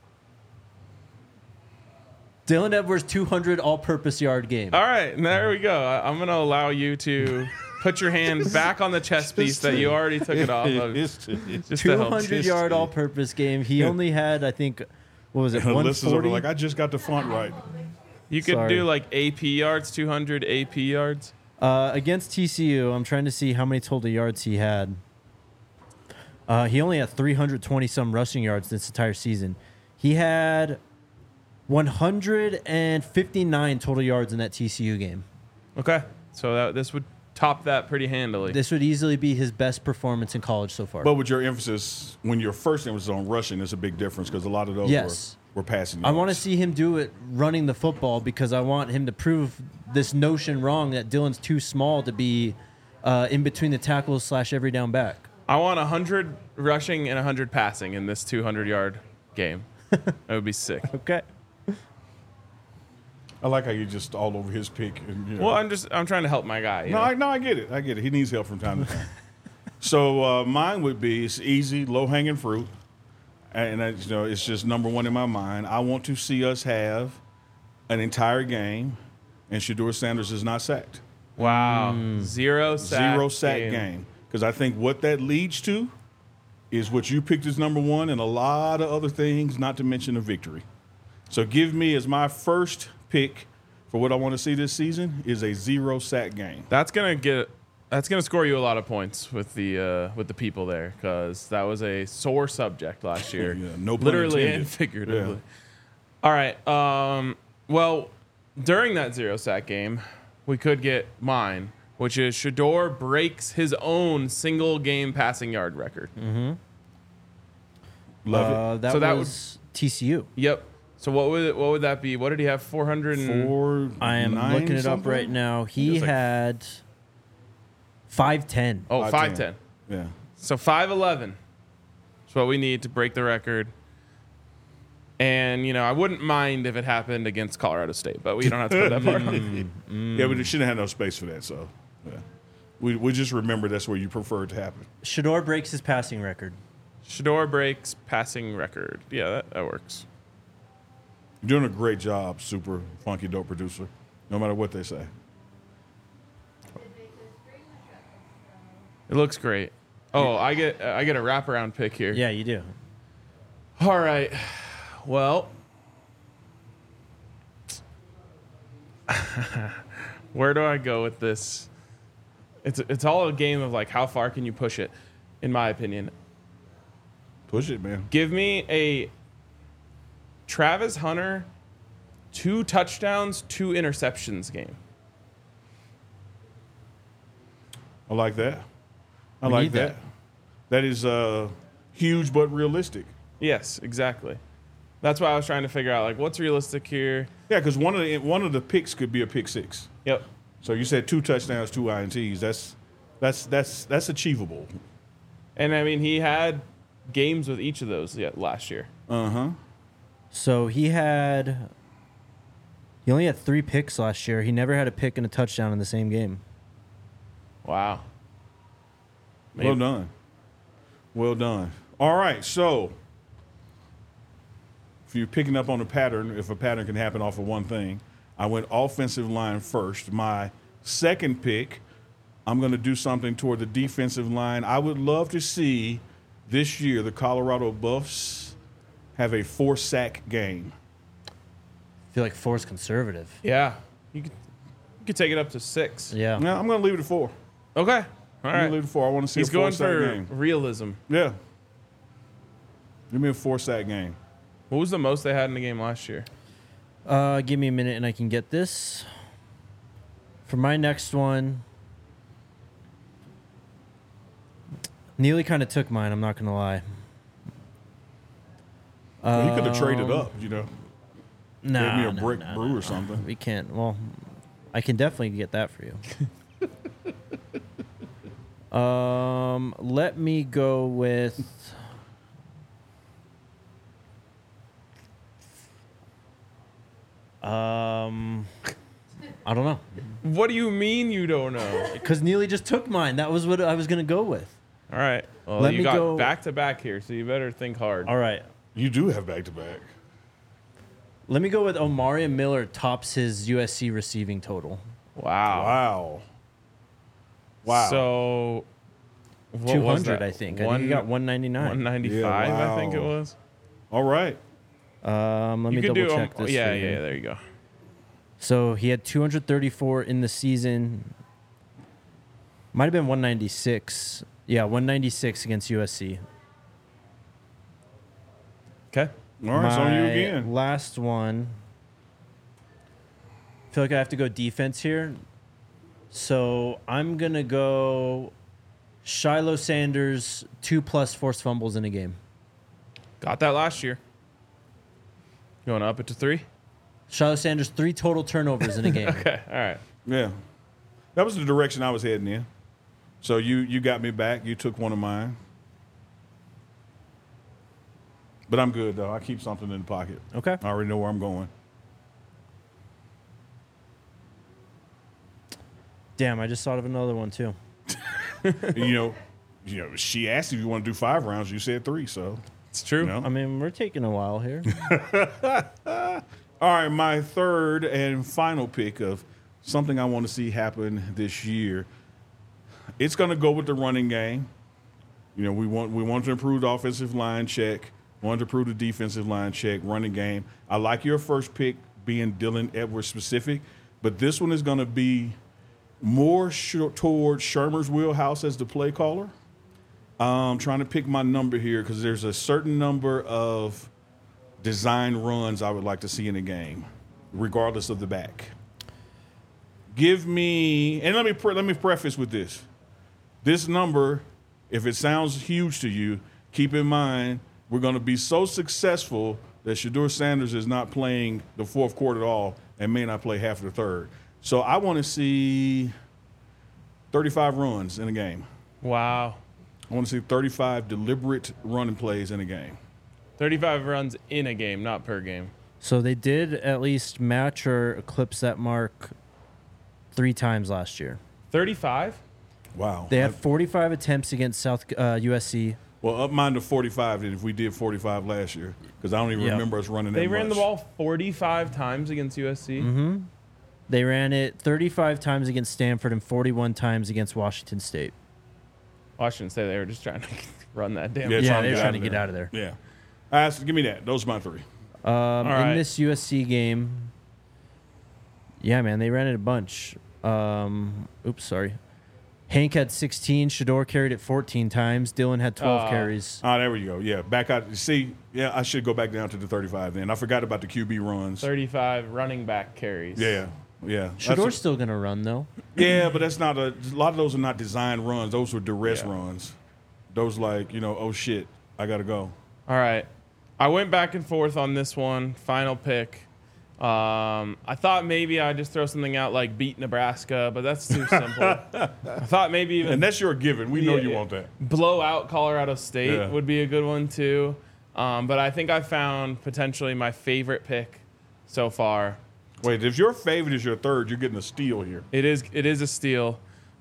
Dylan Edwards 200 all-purpose yard game. All right, there we go. I'm going to allow you to put your hand back on the chess piece that you already took it off of. Just to help. 200-yard all-purpose game. He only had, I think, what was it, 140? Like, I just got the font right. You could do like AP yards, 200 AP yards. Against TCU, I'm trying to see how many total yards he had. He only had 320-some rushing yards this entire season. He had 159 total yards in that TCU game. Okay, so this would top that pretty handily. This would easily be his best performance in college so far. But with your emphasis, when your first emphasis on rushing, there's a big difference because a lot of those were passing yards. I want to see him do it running the football because I want him to prove this notion wrong that Dylan's too small to be in between the tackles / every down back. I want 100 rushing and 100 passing in this 200-yard game. That would be sick. Okay. I like how you just all over his pick. And, Well, I'm trying to help my guy. I get it. I get it. He needs help from time to time. So mine would be, it's easy, low-hanging fruit. And it's just number 1 in my mind. I want to see us have an entire game, and Shedeur Sanders is not sacked. Wow. Zero sack game. Because I think what that leads to is what you picked as number 1 and a lot of other things, not to mention a victory. So give me as my first pick for what I want to see this season is a 0 sack game. That's gonna score you a lot of points with the people there because that was a sore subject last year. No pun literally intended. and figuratively. Yeah. All right. Well, during that 0 sack game, we could get mine, which is Shedeur breaks his own single game passing yard record. Mm-hmm. Love it. That was TCU. Yep. So what would that be? What did he have? 400. I am looking it up right now. He had 5'10". Oh, 5'10". Yeah. So 5'11". That's what we need to break the record. And, I wouldn't mind if it happened against Colorado State, but we don't have to put that part on. Yeah, we shouldn't have no space for that. So, yeah. We just remember that's where you prefer it to happen. Shedeur breaks his passing record. Shedeur breaks passing record. Yeah, that works. You're doing a great job, super funky dope producer, no matter what they say. It looks great. Oh, I get a wraparound pick here. Yeah, you do. All right. Well, where do I go with this? It's all a game of like how far can you push it, in my opinion. Push it, man. Give me a Travis Hunter 2 touchdowns, 2 interceptions game. I like that. I We like need that. That is huge but realistic. Yes, exactly. That's why I was trying to figure out like what's realistic here. Yeah, because one of the picks could be a pick 6. Yep. So you said 2 touchdowns, 2 INTs. That's achievable. And I mean he had games with each of those last year. Uh-huh. So he only had 3 picks last year. He never had a pick and a touchdown in the same game. Wow. Well done. Well done. All right, so if you're picking up on a pattern, if a pattern can happen off of one thing, I went offensive line first. My second pick, I'm going to do something toward the defensive line. I would love to see this year the Colorado Buffs have a 4-sack game. I feel like 4 is conservative. Yeah. You could take it up to 6. Yeah. Now, I'm going to leave it at 4. Okay. All I'm going right. to leave it at 4. I want to see He's a going 4-sack for game. realism. Yeah. Give me a 4-sack game. What was the most they had in the game last year? Give me a minute and I can get this. For my next one, Neely kind of took mine. I'm not gonna lie. Well, he could have traded up, you know. Nah, Gave me a brick brew or something. We can't. Well, I can definitely get that for you. Let me go with. I don't know. What do you mean you don't know? Because Neely just took mine. That was what I was gonna go with. All right. Well, Let you me got go- back to back here, so you better think hard. All right. You do have back-to-back. Let me go with Omari Miller tops his USC receiving total. Wow. Wow. So, what was 200, that? I think. I think he got 199. 195, Yeah, I think it wow. was. All right. Let me You could double do check this. yeah, for you. yeah, there you go. So he had 234 in the season. Might have been 196. Yeah, 196 against USC. Okay. All right, it's on you My again. Last one. I feel like I have to go defense here. So I'm going to go Shiloh Sanders, 2+ forced fumbles in a game. Got that last year. You want to up it to 3? Shiloh Sanders, 3 total turnovers in a game. Okay. All right. Yeah. That was the direction I was heading in. So you got me back. You took one of mine. But I'm good, though. I keep something in the pocket. Okay. I already know where I'm going. Damn, I just thought of another one too. And, you know, she asked if you want to do 5 rounds. You said 3, so. It's true. You know. I mean, we're taking a while here. All right, my third and final pick of something I want to see happen this year. It's going to go with the running game. You know, we want to improve the offensive line check. Want to improve the defensive line check, running game. I like your first pick being Dylan Edwards specific, but this one is going to be more towards Shermer's wheelhouse as the play caller. I'm trying to pick my number here because there's a certain number of design runs I would like to see in a game, regardless of the back. Give me, and let me preface with this. This number, if it sounds huge to you, keep in mind we're going to be so successful that Shedeur Sanders is not playing the fourth quarter at all and may not play half of the third. So I want to see 35 runs in a game. Wow. I want to see 35 deliberate running plays in a game. 35 runs in a game, not per game. So they did at least match or eclipse that mark 3 times last year. 35? Wow. They had 45 attempts against USC. Well, up mine to 45 then if we did 45 last year because I don't even Yep. remember us running that They much. ran the ball 45 times against USC. Mm-hmm. They ran it 35 times against Stanford and 41 times against Washington State. Washington State, they were just trying to run that damn. Yeah, Yeah, trying to they were get trying out to of get there. out of there. Yeah. Give me that. Those are my 3. right. In this USC game, yeah, man, they ran it a bunch. Oops, sorry. Hank had 16. Shedeur carried it 14 times. Dylan had 12 carries. Oh, there we go. Yeah, back out. See, yeah, I should go back down to the 35 then. I forgot about the QB runs. 35 running back carries. Yeah, yeah. Shedeur's still going to run, though. Yeah, but that's not a lot of those are not designed runs. Those were duress Yeah. runs. Those like, oh shit, I got to go. All right. I went back and forth on this one. Final pick. I thought maybe I'd just throw something out like beat Nebraska, but that's too simple. I thought maybe even And that's your given. We know Yeah, you yeah. want that. blow out Colorado State Yeah. would be a good one too. But I think I found potentially my favorite pick so far. Wait, if your favorite is your third, you're getting a steal here. It is a steal.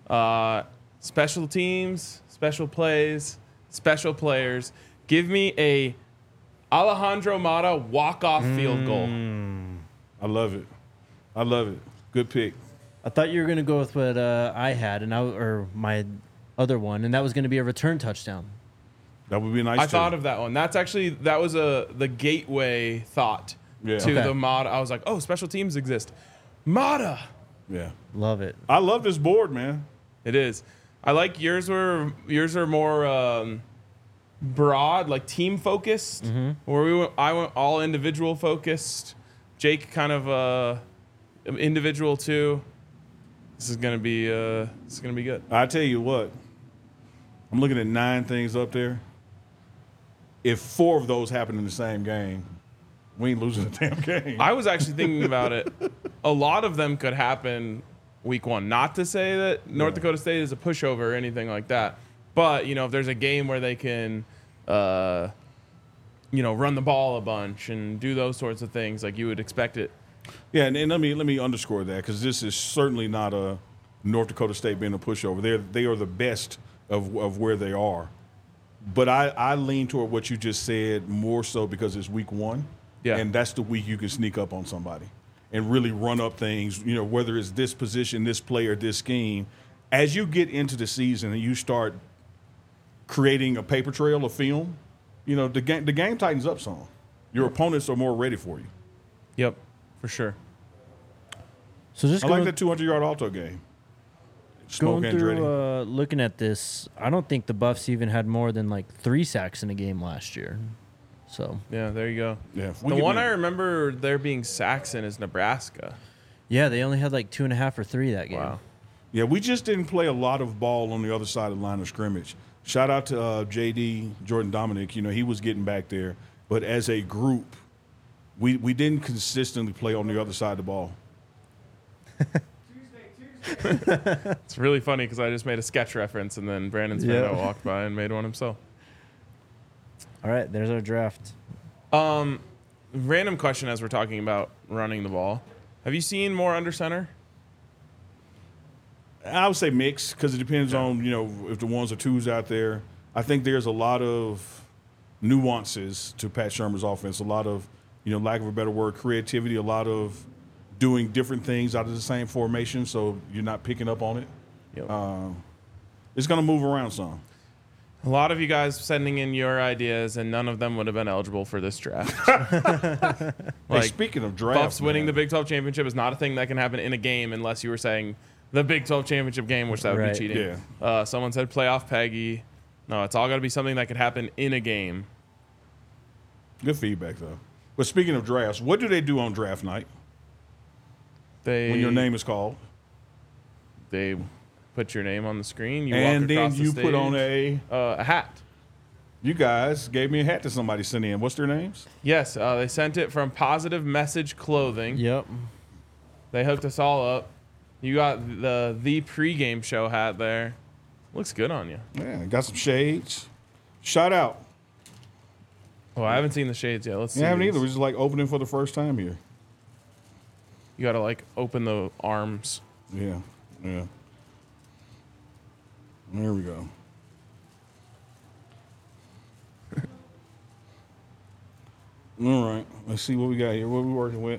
Special teams, special plays, special players. Give me a Alejandro Mata walk-off field goal. I love it. I love it. Good pick. I thought you were going to go with what I had, or my other one, and that was going to be a return touchdown. That would be nice. I thought of that one. That was the gateway thought Yeah. to Okay. the Mata. I was like, oh, special teams exist. Mata. Yeah. Love it. I love this board, man. It is. I like yours were more broad, like team focused. Where I went all individual focused. Jake kind of individual too. This is gonna be good. I tell you what, I'm looking at 9 things up there. If 4 of those happen in the same game, we ain't losing a damn game. I was actually thinking about it. A lot of them could happen week 1. Not to say that North Dakota State is a pushover or anything like that. But, if there's a game where they can, run the ball a bunch and do those sorts of things, like you would expect it. Yeah, and let me underscore that, because this is certainly not a North Dakota State being a pushover. They are the best of where they are. But I lean toward what you just said more so because it's week 1. Yeah. And that's the week you can sneak up on somebody and really run up things, whether it's this position, this player, this scheme. As you get into the season and you start creating a paper trail of film, the game tightens up some. Your opponents are more ready for you. Yep, for sure. So just I like that 200-yard alto game. Smoke going through looking at this, I don't think the Buffs even had more than like 3 sacks in a game last year. So Yeah, there you go. Yeah, The one I remember there being sacks in is Nebraska. yeah, they only had like 2.5 or 3 that game. Wow. Yeah, we just didn't play a lot of ball on the other side of the line of scrimmage. Shout out to JD, Jordan Dominic. He was getting back there. But as a group, we didn't consistently play on the other side of the ball. It's really funny because I just made a sketch reference and then Brandon Spano walked by and made one himself. All right, there's our draft. Random question as we're talking about running the ball. Have you seen more under center? I would say mixed, because it depends on, if the 1s or 2s out there. I think there's a lot of nuances to Pat Shermer's offense, a lot of, lack of a better word, creativity, a lot of doing different things out of the same formation, so you're not picking up on it. Yep. It's going to move around some. A lot of you guys sending in your ideas, and none of them would have been eligible for this draft. Hey, speaking of draft, Buffs winning the Big 12 championship is not a thing that can happen in a game unless you were saying the Big 12 championship game, which that would Right. be cheating. Yeah. Someone said playoff Peggy. No, it's all got to be something that could happen in a game. Good feedback, though. But speaking of drafts, what do they do on draft night when your name is called? They put your name on the screen. You And walk then across you the put on stage. A hat. You guys gave me a hat that somebody sent in. What's their names? Yes, they sent it from Positive Message Clothing. Yep. They hooked us all up. You got the pregame show hat there. Looks good on you. Yeah, got some shades. Shout out. Oh, I haven't seen the shades yet. Let's see. Yeah, I haven't these. either. We're just like opening for the first time here. You got to like open the arms. Yeah, yeah. There we go. All right. Let's see what we got here. What are we working with?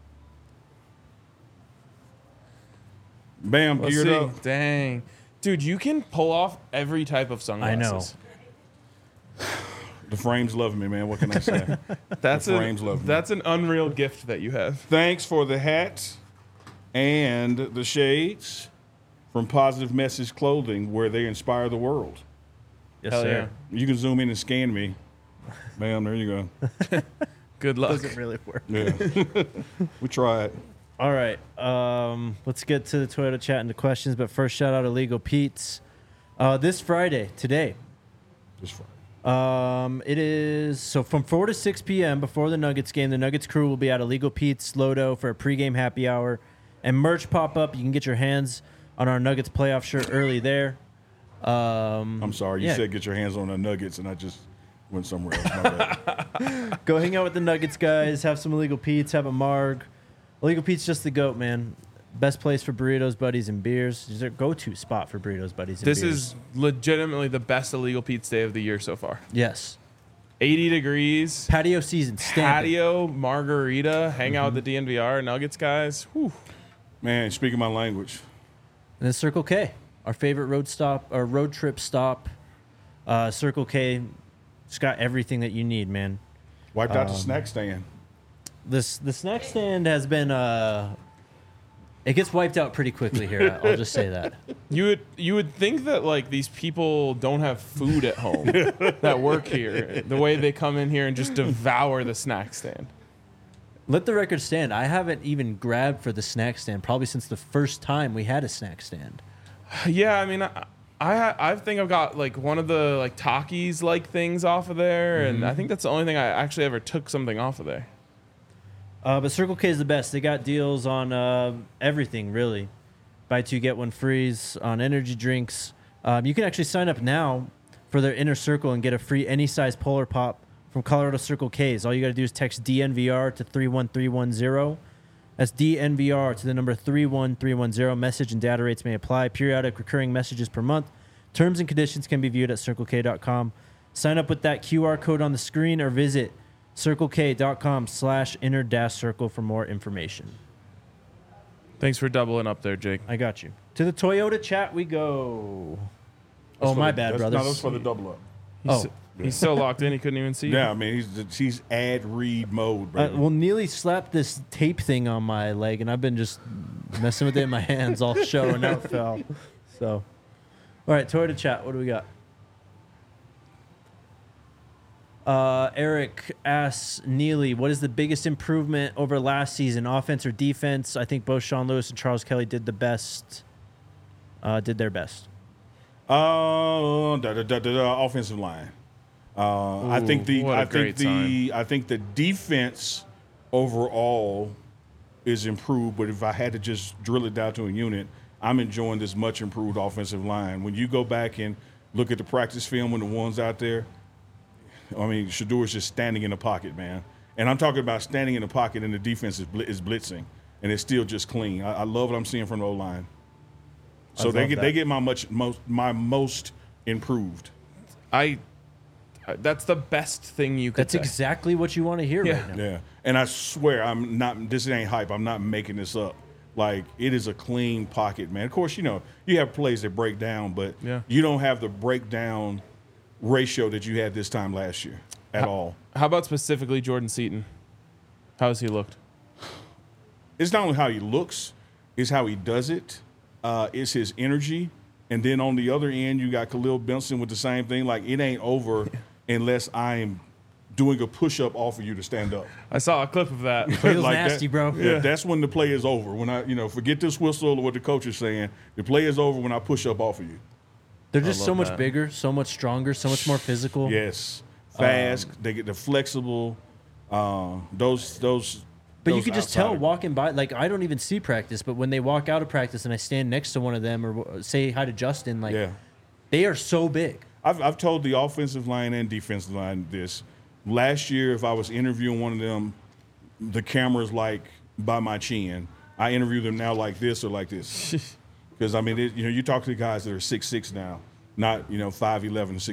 Bam, Let's geared see. up. Dang. Dude, you can pull off every type of sunglasses. The frames love me, man. What can I say? That's The frames love me. That's an unreal gift that you have. Thanks for the hat and the shades from Positive Message Clothing, where they inspire the world. Yes, Hell sir. You can zoom in and scan me. Bam, there you go. Good luck. Doesn't really work. Yeah. We tried. All right. Let's get to the Toyota chat and the questions. But first, shout out Illegal Pete's. This Friday, today, Just fine. it is so from 4 to 6 p.m. before the Nuggets game. The Nuggets crew will be at Illegal Pete's Lodo for a pregame happy hour and merch pop up. You can get your hands on our Nuggets playoff shirt early there. I'm sorry. You yeah. said get your hands on the Nuggets, and I just went somewhere else. My bad. Go hang out with the Nuggets guys. Have some Illegal Pete's. Have a marg. Illegal Pete's just the GOAT, man. Best place for burritos, buddies, and beers. It's their go-to spot for burritos, buddies, and This beers. is legitimately the best Illegal Pete's day of the year so far. Yes. 80 degrees. Patio season. Stamp it. Patio, margarita, hang out with the DNVR Nuggets guys. Whew. Man, speaking my language. And then Circle K, our favorite road stop, or road trip stop. Circle K, it's got everything that you need, man. Wiped out the snack stand. The snack stand has been it gets wiped out pretty quickly here. I'll just say that. You would think that like these people don't have food at home that work here. The way they come in here and just devour the snack stand. Let the record stand. I haven't even grabbed for the snack stand probably since the first time we had a snack stand. Yeah, I mean, I I think I've got like one of the like Takis like things off of there, and I think that's the only thing I actually ever took something off of there. But Circle K is the best. They got deals on everything, really. Buy two, get one frees on energy drinks. You can actually sign up now for their Inner Circle and get a free any size Polar Pop from Colorado Circle K's. All you got to do is text DNVR to 31310. That's DNVR to the number 31310. Message and data rates may apply. Periodic recurring messages per month. Terms and conditions can be viewed at CircleK.com. Sign up with that QR code on the screen or visit CircleK.com/inner-circle for more information. Thanks for doubling up there, Jake. I got you. To the Toyota chat we go. My bad, brothers. No, that's for the double up. He's so locked in he couldn't even see. Yeah, I mean he's ad read mode, bro. Well, Neely slapped this tape thing on my leg, and I've been just messing with it in my hands all show, and now it fell. So, all right, Toyota chat. What do we got? Eric asks Neely, what is the biggest improvement over last season, offense or defense? I think both Sean Lewis and Charles Kelly did their best. Offensive line. I think the defense overall is improved, but if I had to just drill it down to a unit, I'm enjoying this much improved offensive line. When you go back and look at the practice film when the ones out there, I mean, Shadour's just standing in the pocket, man. And I'm talking about standing in the pocket and the defense is blitzing, and it's still just clean. I love what I'm seeing from the O-line. So they get my most improved. That's the best thing you could That's say. exactly what you want to hear right now. Yeah, and I swear I'm not. This ain't hype. I'm not making this up. Like, it is a clean pocket, man. Of course, you have plays that break down, but you don't have the breakdown ratio that you had this time last year at all. How about specifically Jordan Seaton? How has he looked? It's not only how he looks, it's how he does it. It's his energy. And then on the other end, you got Khalil Benson with the same thing. Like, it ain't over unless I'm doing a push-up off of you to stand up. I saw a clip of that. Feels nasty, bro. Yeah, that's when the play is over. When I, forget this whistle or what the coach is saying. The play is over when I push up off of you. They're just so much bigger, so much stronger, so much more physical. Yes, fast. They're flexible. Those. But you could just tell walking by. Like, I don't even see practice, but when they walk out of practice and I stand next to one of them or say hi to Justin, they are so big. I've told the offensive line and defensive line this. Last year, if I was interviewing one of them, the camera's like by my chin. I interview them now like this or like this. Because, I mean, you talk to the guys that are 6'6" now, not, 5'11" and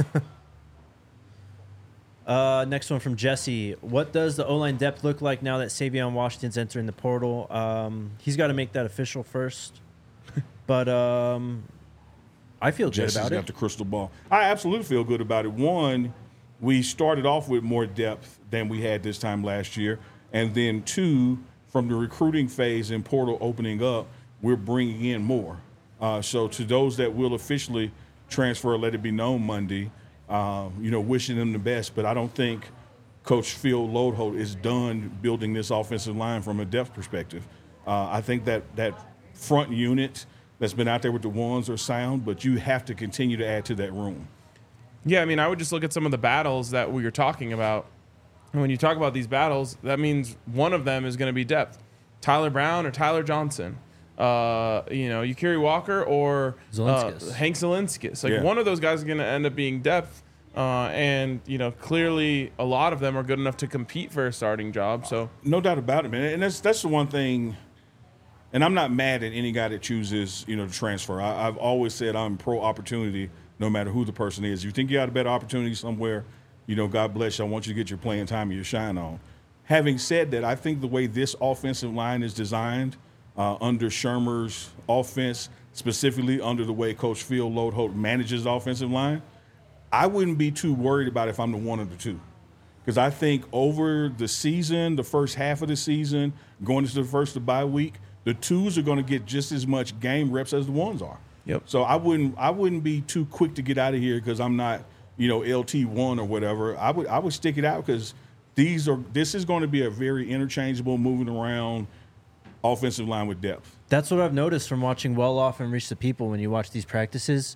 6'1". Next one from Jesse. What does the O-line depth look like now that Savion Washington's entering the portal? He's got to make that official first. But I feel good about it. Jesse's got the crystal ball. I absolutely feel good about it. One, we started off with more depth than we had this time last year. And then two, from the recruiting phase and portal opening up, we're bringing in more. So to those that will officially transfer, let it be known Monday, wishing them the best. But I don't think Coach Phil Loadholt is done building this offensive line from a depth perspective. I think that front unit that's been out there with the ones are sound, but you have to continue to add to that room. Yeah, I mean, I would just look at some of the battles that we were talking about. And when you talk about these battles, that means one of them is going to be depth. Tyler Brown or Tyler Johnson. Ukiri Walker or Hank Zielinskis. One of those guys is going to end up being depth. And clearly a lot of them are good enough to compete for a starting job. So no doubt about it, man. And that's the one thing. And I'm not mad at any guy that chooses, to transfer. I've always said I'm pro opportunity, no matter who the person is. You think you got a better opportunity somewhere, God bless you. I want you to get your playing time and your shine on. Having said that, I think the way this offensive line is designed, under Shermer's offense, specifically under the way Coach Phil Loadholt manages the offensive line, I wouldn't be too worried about if I'm the one of the two. Because I think over the season, the first half of the season, going into the first of the bye week, the twos are going to get just as much game reps as the ones are. Yep. So I wouldn't be too quick to get out of here because I'm not, LT1 or whatever. I would stick it out because this is going to be a very interchangeable, moving around offensive line with depth. That's what I've noticed from watching Well Off and Reach the People when you watch these practices.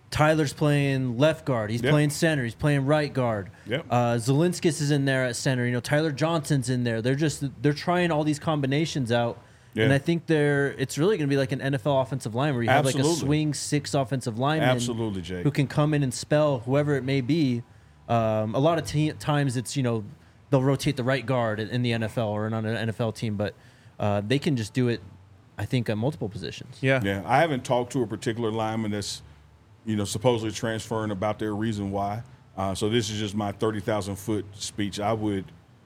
Tyler's playing left guard. He's Yep. playing center. He's playing right guard. Yep. Zelinskis is in there at center. You know, Tyler Johnson's in there. They're trying all these combinations out. Yeah. And I think it's really going to be like an NFL offensive line where you have like a Absolutely. swing 6 offensive lineman Absolutely, Jake. who can come in and spell whoever it may be. A lot of times it's, you know, they'll rotate the right guard in the NFL or on an NFL team, but they can just do it, I think, at multiple positions. Yeah. Yeah, I haven't talked to a particular lineman that's, you know, supposedly transferring about their reason why. So this is just my 30,000-foot speech. I wouldn't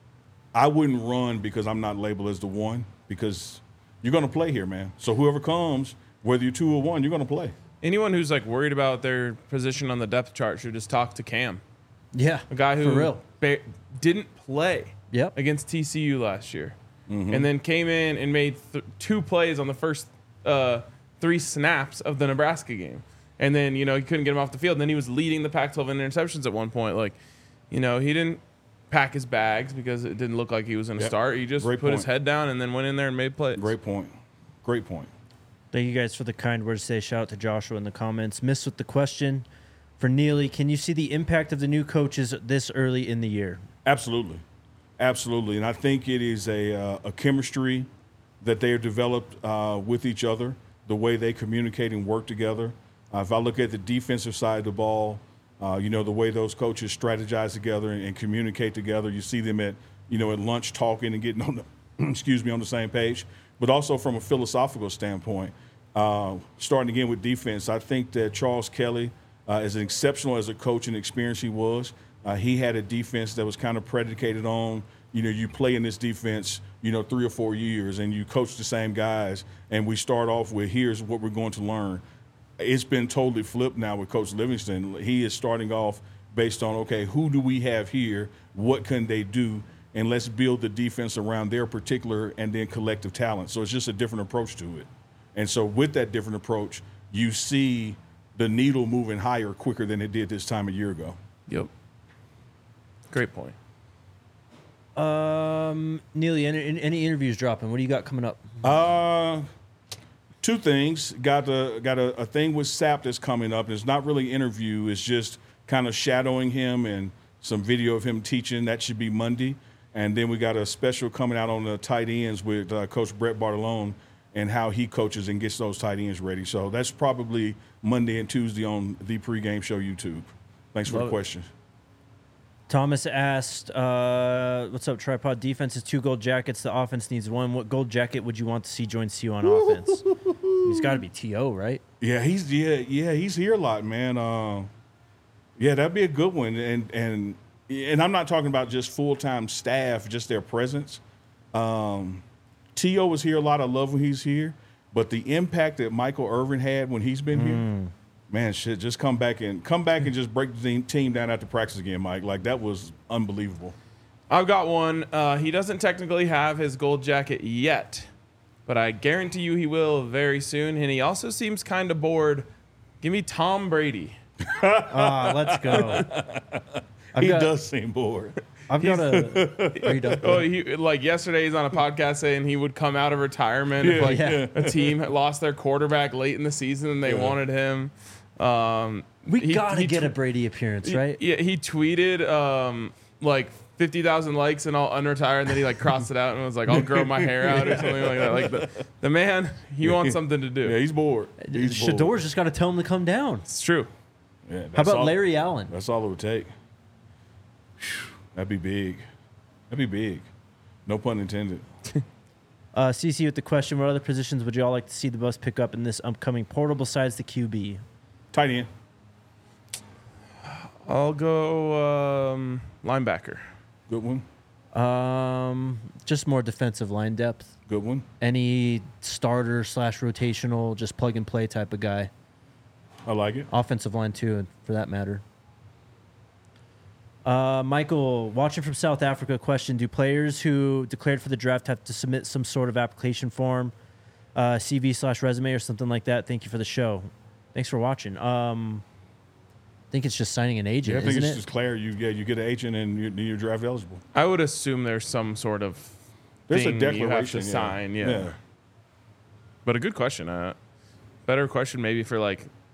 run because I'm not labeled as the one, because you're going to play here, man. So whoever comes, whether you're 2 or 1, you're going to play. Anyone who's like worried about their position on the depth chart should just talk to Cam, Yeah. a guy for who real. didn't play Yep. against TCU last year, and then came in and made 2 plays on the first 3 snaps of the Nebraska game. And then, you know, he couldn't get him off the field. And then he was leading the Pac-12 in interceptions at one point. Like, you know, he didn't pack his bags because it didn't look like he was going to Yep. start. He just Great put his point. head down and then went in there and made plays. Great point. Great point. Thank you guys for the kind words today. Shout out to Joshua in the comments. Missed with the question for Neely. Can you see the impact of the new coaches this early in the year? Absolutely. Absolutely. And I think it is a chemistry that they have developed with each other, the way they communicate and work together. If I look at the defensive side of the ball, you know, the way those coaches strategize together and communicate together, you see them at lunch talking and getting on the, on the same page. But also from a philosophical standpoint, starting again with defense, I think that Charles Kelly, as exceptional as a coach and experience he was, he had a defense that was kind of predicated on, you know, you play in this defense, you know, 3 or 4 years and you coach the same guys, and we start off with here's what we're going to learn. It's been totally flipped now with Coach Livingston. He is starting off based on, okay, who do we have here? What can they do? And let's build the defense around their particular and then collective talent. So it's just a different approach to it. And so with that different approach, you see the needle moving higher quicker than it did this time a year ago. Yep. Great point. Neely, any interviews dropping? What do you got coming up? 2 things. Got a thing with Sapp that's coming up. It's not really an interview. It's just kind of shadowing him and some video of him teaching. That should be Monday. And then we got a special coming out on the tight ends with Coach Brett Bartolone and how he coaches and gets those tight ends ready. So that's probably Monday and Tuesday on the pregame show YouTube. Thanks for the question. Thomas asked, what's up, Tripod? Defense is 2 gold jackets. The offense needs 1. What gold jacket would you want to see join CU on offense? He's got to be T.O., right? Yeah, he's here a lot, man. Yeah, that'd be a good one. And I'm not talking about just full-time staff, just their presence. T.O. was here a lot. I love when he's here. But the impact that Michael Irvin had when he's been here, man, shit, just come back and just break the team down after practice again, Mike. Like, that was unbelievable. I've got one. He doesn't technically have his gold jacket yet, but I guarantee you he will very soon. And he also seems kind of bored. Give me Tom Brady. Let's go. He does seem bored. I've got a. Are you done? Oh, like yesterday, he's on a podcast saying he would come out of retirement if like a team had lost their quarterback late in the season and they wanted him. We gotta get a Brady appearance, right? Yeah, he tweeted like 50,000 likes and I'll unretire, and then he like crossed it out and was like, I'll grow my hair out or something like that. Like the man, he wants something to do. Yeah, he's bored. Shador's just got to tell him to come down. It's true. Yeah, How about Larry Allen? That's all it would take. That'd be big. That'd be big. No pun intended. CC with the question: what other positions would you all like to see the Bucs pick up in this upcoming portal besides the QB? Tight end. I'll go linebacker. Good one. Just more defensive line depth. Good one. Any starter / rotational, just plug and play type of guy. I like it. Offensive line too, for that matter. Michael, watching from South Africa, question: do players who declared for the draft have to submit some sort of application form, CV / resume or something like that? Thank you for the show. Thanks for watching. I think it's just signing an agent, Yeah, I think isn't it's it? just clear. You get an agent and you're draft eligible. I would assume there's some sort of There's thing a declaration you have to yeah. sign. Yeah. But a good question. Better question maybe for like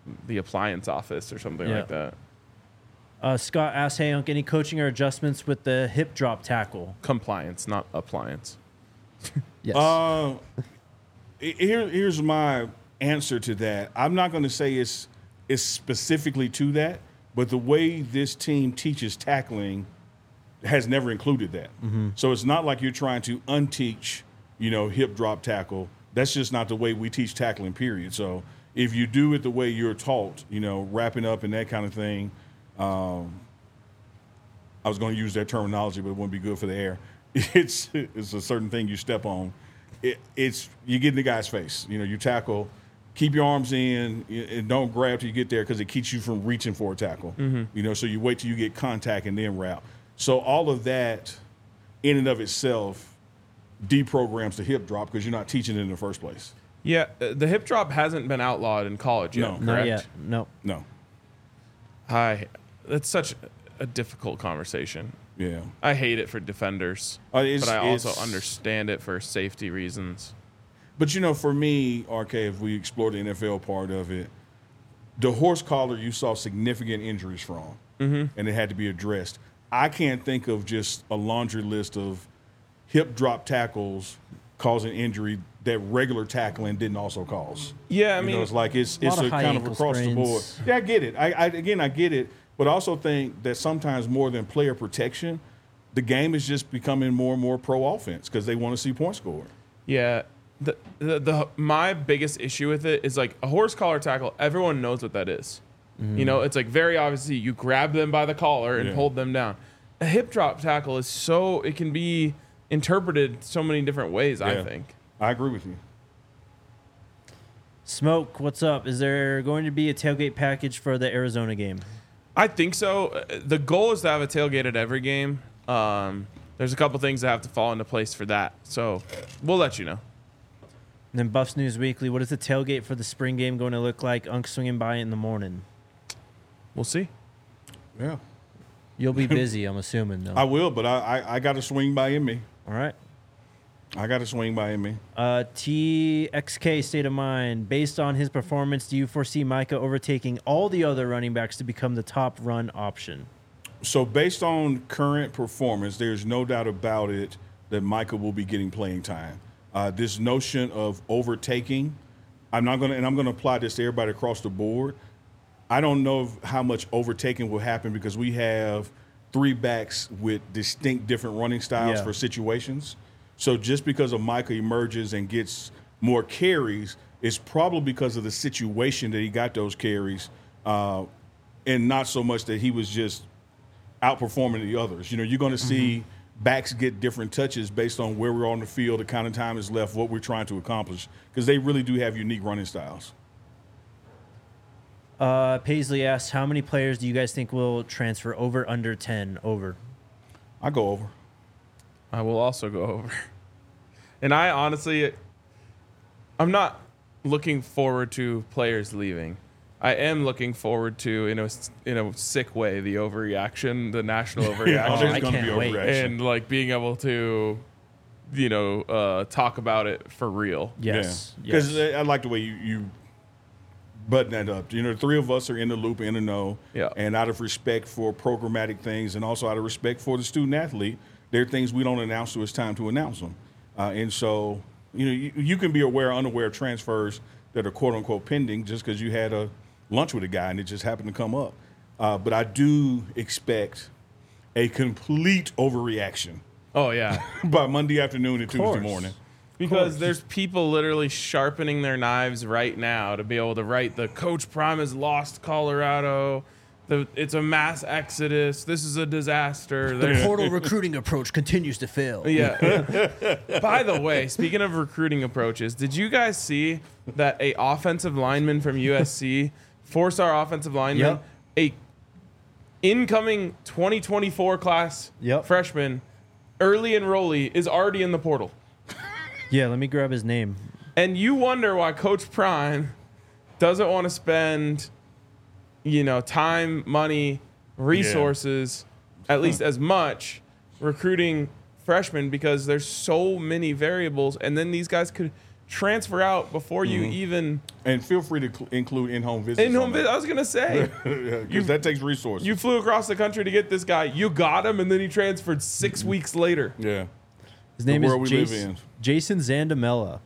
the appliance office or something like that. Scott asks, hey, Unc, any coaching or adjustments with the hip drop tackle? Compliance, not appliance. Yes. Here's my answer to that. I'm not going to say it's specifically to that, but the way this team teaches tackling has never included that. So it's not like you're trying to unteach, hip drop tackle. That's just not the way we teach tackling, period. So if you do it the way you're taught, wrapping up and that kind of thing, I was going to use that terminology, but it wouldn't be good for the air. It's a certain thing you step on. It's you get in the guy's face. You tackle, keep your arms in, and don't grab till you get there because it keeps you from reaching for a tackle. So you wait till you get contact and then wrap. So all of that, in and of itself, deprograms the hip drop because you're not teaching it in the first place. Yeah, the hip drop hasn't been outlawed in college yet. No. Correct? Not yet. No. That's such a difficult conversation. Yeah. I hate it for defenders, but I also understand it for safety reasons. But, for me, RK, if we explore the NFL part of it, the horse collar you saw significant injuries from, and it had to be addressed. I can't think of just a laundry list of hip drop tackles causing injury that regular tackling didn't also cause. Yeah, I mean, it's like it's of kind of across sprains. the board. Yeah, I get it. I get it. But I also think that sometimes more than player protection, the game is just becoming more and more pro offense because they want to see points scored. Yeah. My biggest issue with it is like a horse collar tackle. Everyone knows what that is. It's like very obviously you grab them by the collar and hold them down. A hip drop tackle is it can be interpreted so many different ways, I think. I agree with you. Smoke, what's up? Is there going to be a tailgate package for the Arizona game? I think so. The goal is to have a tailgate at every game. There's a couple things that have to fall into place for that. So we'll let you know. And then Buffs News Weekly, what is the tailgate for the spring game going to look like? Unc swinging by in the morning. We'll see. Yeah. You'll be busy, I'm assuming, though. I will, but I got to swing by in me. All right. I got to swing by in me. TXK State of Mind. Based on his performance, do you foresee Micah overtaking all the other running backs to become the top run option? So based on current performance, there's no doubt about it that Micah will be getting playing time. This notion of overtaking, I'm going to apply this to everybody across the board. I don't know how much overtaking will happen because we have three backs with distinct different running styles for situations. So just because of Micah emerges and gets more carries, it's probably because of the situation that he got those carries, and not so much that he was just outperforming the others. You're going to see backs get different touches based on where we're on the field, the kind of time is left, what we're trying to accomplish, because they really do have unique running styles. Paisley asks, how many players do you guys think will transfer over, under 10? Over. I go over. I will also go over. And I honestly, I'm not looking forward to players leaving. I am looking forward to, in a sick way, the overreaction, the national overreaction. I can't wait. And like being able to, talk about it for real. Yes. Because I like the way you button that up. The three of us are in the loop, in the know. Yeah. And out of respect for programmatic things and also out of respect for the student athlete, there are things we don't announce till it's time to announce them. And so, you can be aware or unaware of transfers that are quote unquote pending just because you had a lunch with a guy and it just happened to come up. But I do expect a complete overreaction. Oh, yeah. By Monday afternoon and Tuesday morning. Because there's people literally sharpening their knives right now to be able to write the Coach Prime has lost Colorado. It's a mass exodus. This is a disaster. The portal recruiting approach continues to fail. Yeah. By the way, speaking of recruiting approaches, did you guys see that a offensive lineman from USC, four-star offensive lineman, a incoming 2024 class freshman, early enrollee, is already in the portal? Yeah, let me grab his name. And you wonder why Coach Prime doesn't want to spend, time, money, resources, at least as much, recruiting freshmen because there's so many variables. And then these guys could transfer out before you even And feel free to include in-home visits. in-home visit. I was gonna say because that takes resources. you flew across the country to get this guy. You got him, and then he transferred 6 weeks later. yeah. His name world is we live in. Jason Zandamella,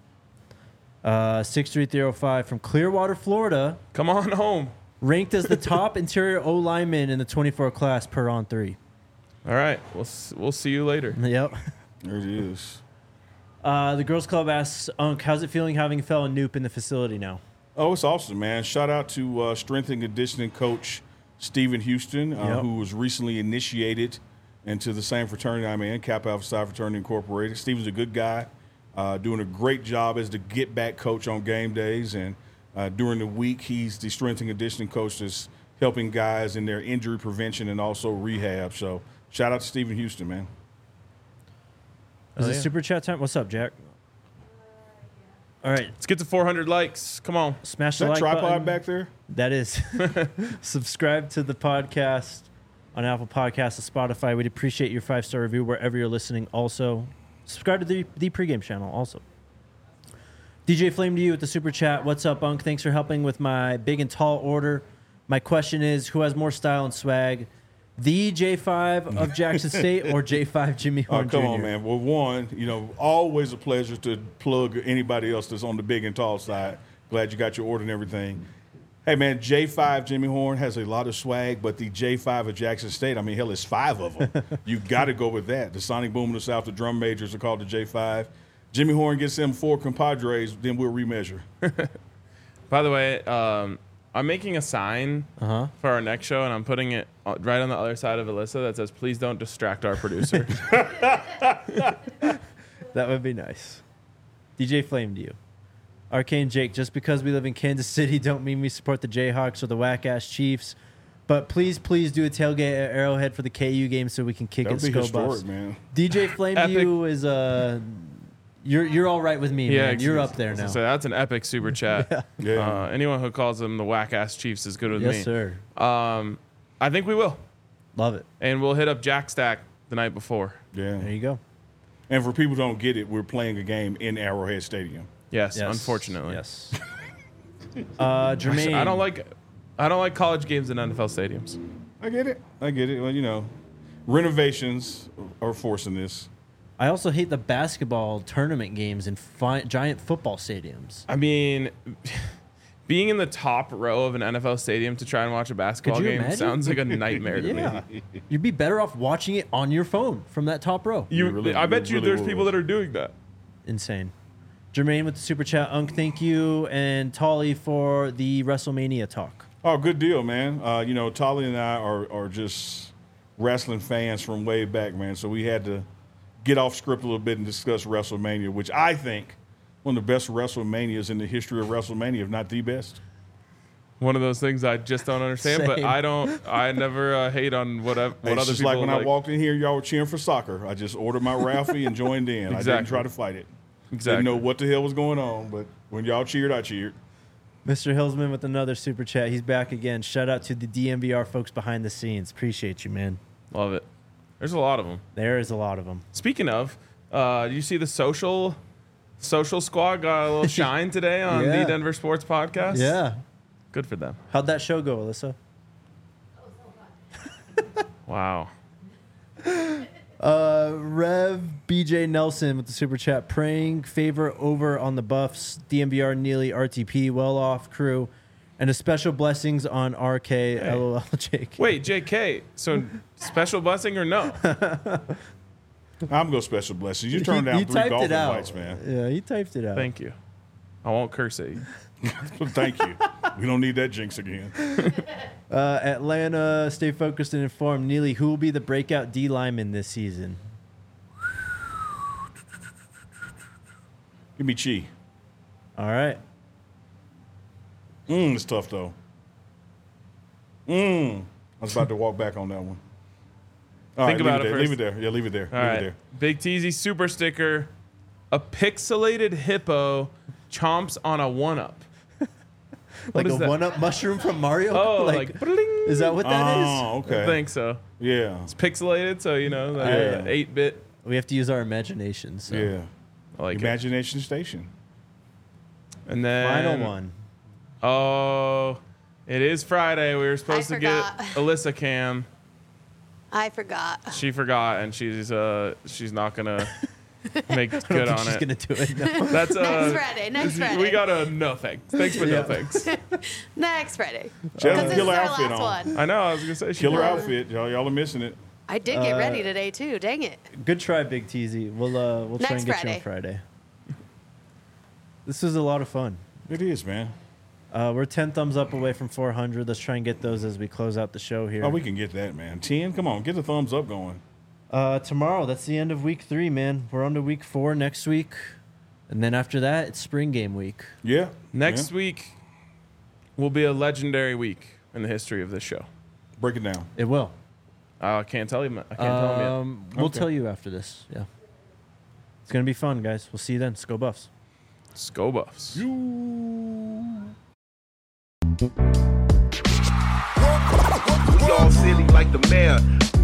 6'3", from Clearwater, Florida, Come on home. ranked as the top interior O lineman in the 24 class per on 3. All right, we'll see you later. Yep. There it is. The girls club asks Unc, how's it feeling having a fellow Noop in the facility now? Oh, it's awesome, man. Shout out to strength and conditioning coach Stephen Houston, Yep. who was recently initiated into the same fraternity I'm in, Kappa Alpha Psi Fraternity Incorporated. Stephen's a good guy, doing a great job as the get-back coach on game days. And during the week, he's the strength and conditioning coach that's helping guys in their injury prevention and also rehab. So shout out to Stephen Houston, man. Is it yeah. super chat time? What's up, Jack? All right, Let's get to 400 likes. Come on. smash Is the that like tripod button. back there? That is. Subscribe to the podcast on Apple Podcasts and Spotify. We'd appreciate your 5-star review wherever you're listening. Also, subscribe to the pregame channel. Also, DJ Flame to you with the super chat. What's up, Unc? Thanks for helping with my big and tall order. My question is, who has more style and swag? The J5 of Jackson State or J5 Jimmy Oh, Horn come Jr.? on, man. Well, one, always a pleasure to plug anybody else that's on the big and tall side. Glad you got your order and everything. Hey, man, J5 Jimmy Horn has a lot of swag, but the J5 of Jackson State, I mean, hell, it's 5 of them. You got to go with that. The Sonic Boom in the South, the drum majors are called the J5. Jimmy Horn gets them 4 compadres, then we'll remeasure. By the way, I'm making a sign Uh-huh. for our next show, and I'm putting it right on the other side of Alyssa that says, "Please don't distract our producer." That would be nice. DJ Flame to you. Arcane Jake, just because we live in Kansas City don't mean we support the Jayhawks or the whack-ass Chiefs. But please do a tailgate at Arrowhead for the KU game so we can kick That at would be Sco Buffs. historic, man. DJ Flame to you is you're all right with me, man. You're up there now. So that's an epic super chat. Yeah. Anyone who calls them the whack ass Chiefs is good with me. Yes, sir. I think we will, Love it. and we'll hit up Jack Stack the night before. Yeah. There you go. And for people who don't get it, we're playing a game in Arrowhead Stadium. Yes, Yes. unfortunately. Yes. Jermaine. I don't like college games in NFL stadiums. I get it. Well, renovations are forcing this. I also hate the basketball tournament games in giant football stadiums. I mean, being in the top row of an NFL stadium to try and watch a basketball Could you game imagine? sounds like a nightmare to Yeah. me. You'd be better off watching it on your phone from that top row. I bet you really there's would. people that are doing that. Insane. Jermaine with the super chat. Unc, thank you. And Tolly for the WrestleMania talk. Oh, good deal, man. Tolly and I are just wrestling fans from way back, man. So we had to get off script a little bit and discuss WrestleMania, which I think one of the best WrestleManias in the history of WrestleMania, if not the best. One of those things I just don't understand, but Same. I never hate on what other It's just people like when I walked in here, y'all were cheering for soccer. I just ordered my Ralphie and joined in. I didn't Exactly. try to fight it. Exactly. Didn't know what the hell was going on, but when y'all cheered, I cheered. Mr. Hillsman with another super chat. He's back again. Shout out to the DMVR folks behind the scenes. Appreciate you, man. Love it. There's a lot of them. There is a lot of them. Speaking of, you see the social squad got a little shine today on Yeah. the Denver Sports Podcast? Yeah. Good for them. How'd that show go, Alyssa? Wow. Rev BJ Nelson with the super chat. Praying favor over on the Buffs, DMVR, Neely, RTP, well off crew, and a special blessings on RK, LOL, JK. Wait, JK. So special blessing or no? I'm going to special blessings. You turned down He 3 typed golf it out. invites, man. Yeah, he typed it out. Thank you. I won't curse at you. Thank you. We don't need that jinx again. Atlanta, stay focused and informed. Neely, who will be the breakout D lineman this season? Give me Chi. All right. It's tough, though. I was about to walk back on that one. All Think right, about it leave first. Leave it there. Yeah, leave it there. All leave right. it there. Big Teasy super sticker. A pixelated hippo chomps on a 1-up. Like is a that? one-up mushroom from Mario? Oh, like bling. is that what that is? Oh, okay. I think so. Yeah. It's pixelated, so like Yeah. 8-bit. We have to use our imagination. So. Yeah. I like it. Imagination Station. And then Final one. Oh, it is Friday. We were supposed to get Alyssa Cam. I forgot. She forgot, and she's not gonna make good on She's it. gonna do it. No. That's Next Friday. We got a no thanks. Thanks, but no thanks. Next Friday. She has Because a this is killer our outfit last on. one. I know. I was gonna say she Killer forgot. outfit. Y'all are missing it. I did get ready today too. Dang it. Good try, Big Teasy. We'll try Next and get you Friday. on Friday. This was a lot of fun. It is, man. We're 10 thumbs up away from 400. Let's try and get those as we close out the show here. Oh, we can get that, man. 10. Come on, get the thumbs up going. Tomorrow, that's the end of week 3, man. We're on to week 4 next week. And then after that, it's spring game week. Yeah. Next week will be a legendary week in the history of this show. Break it down. It will. I can't tell you. I can't tell them yet. We'll Okay. tell you after this. Yeah. It's going to be fun, guys. We'll see you then. Go Buffs. Go Buffs. We all silly like the mayor.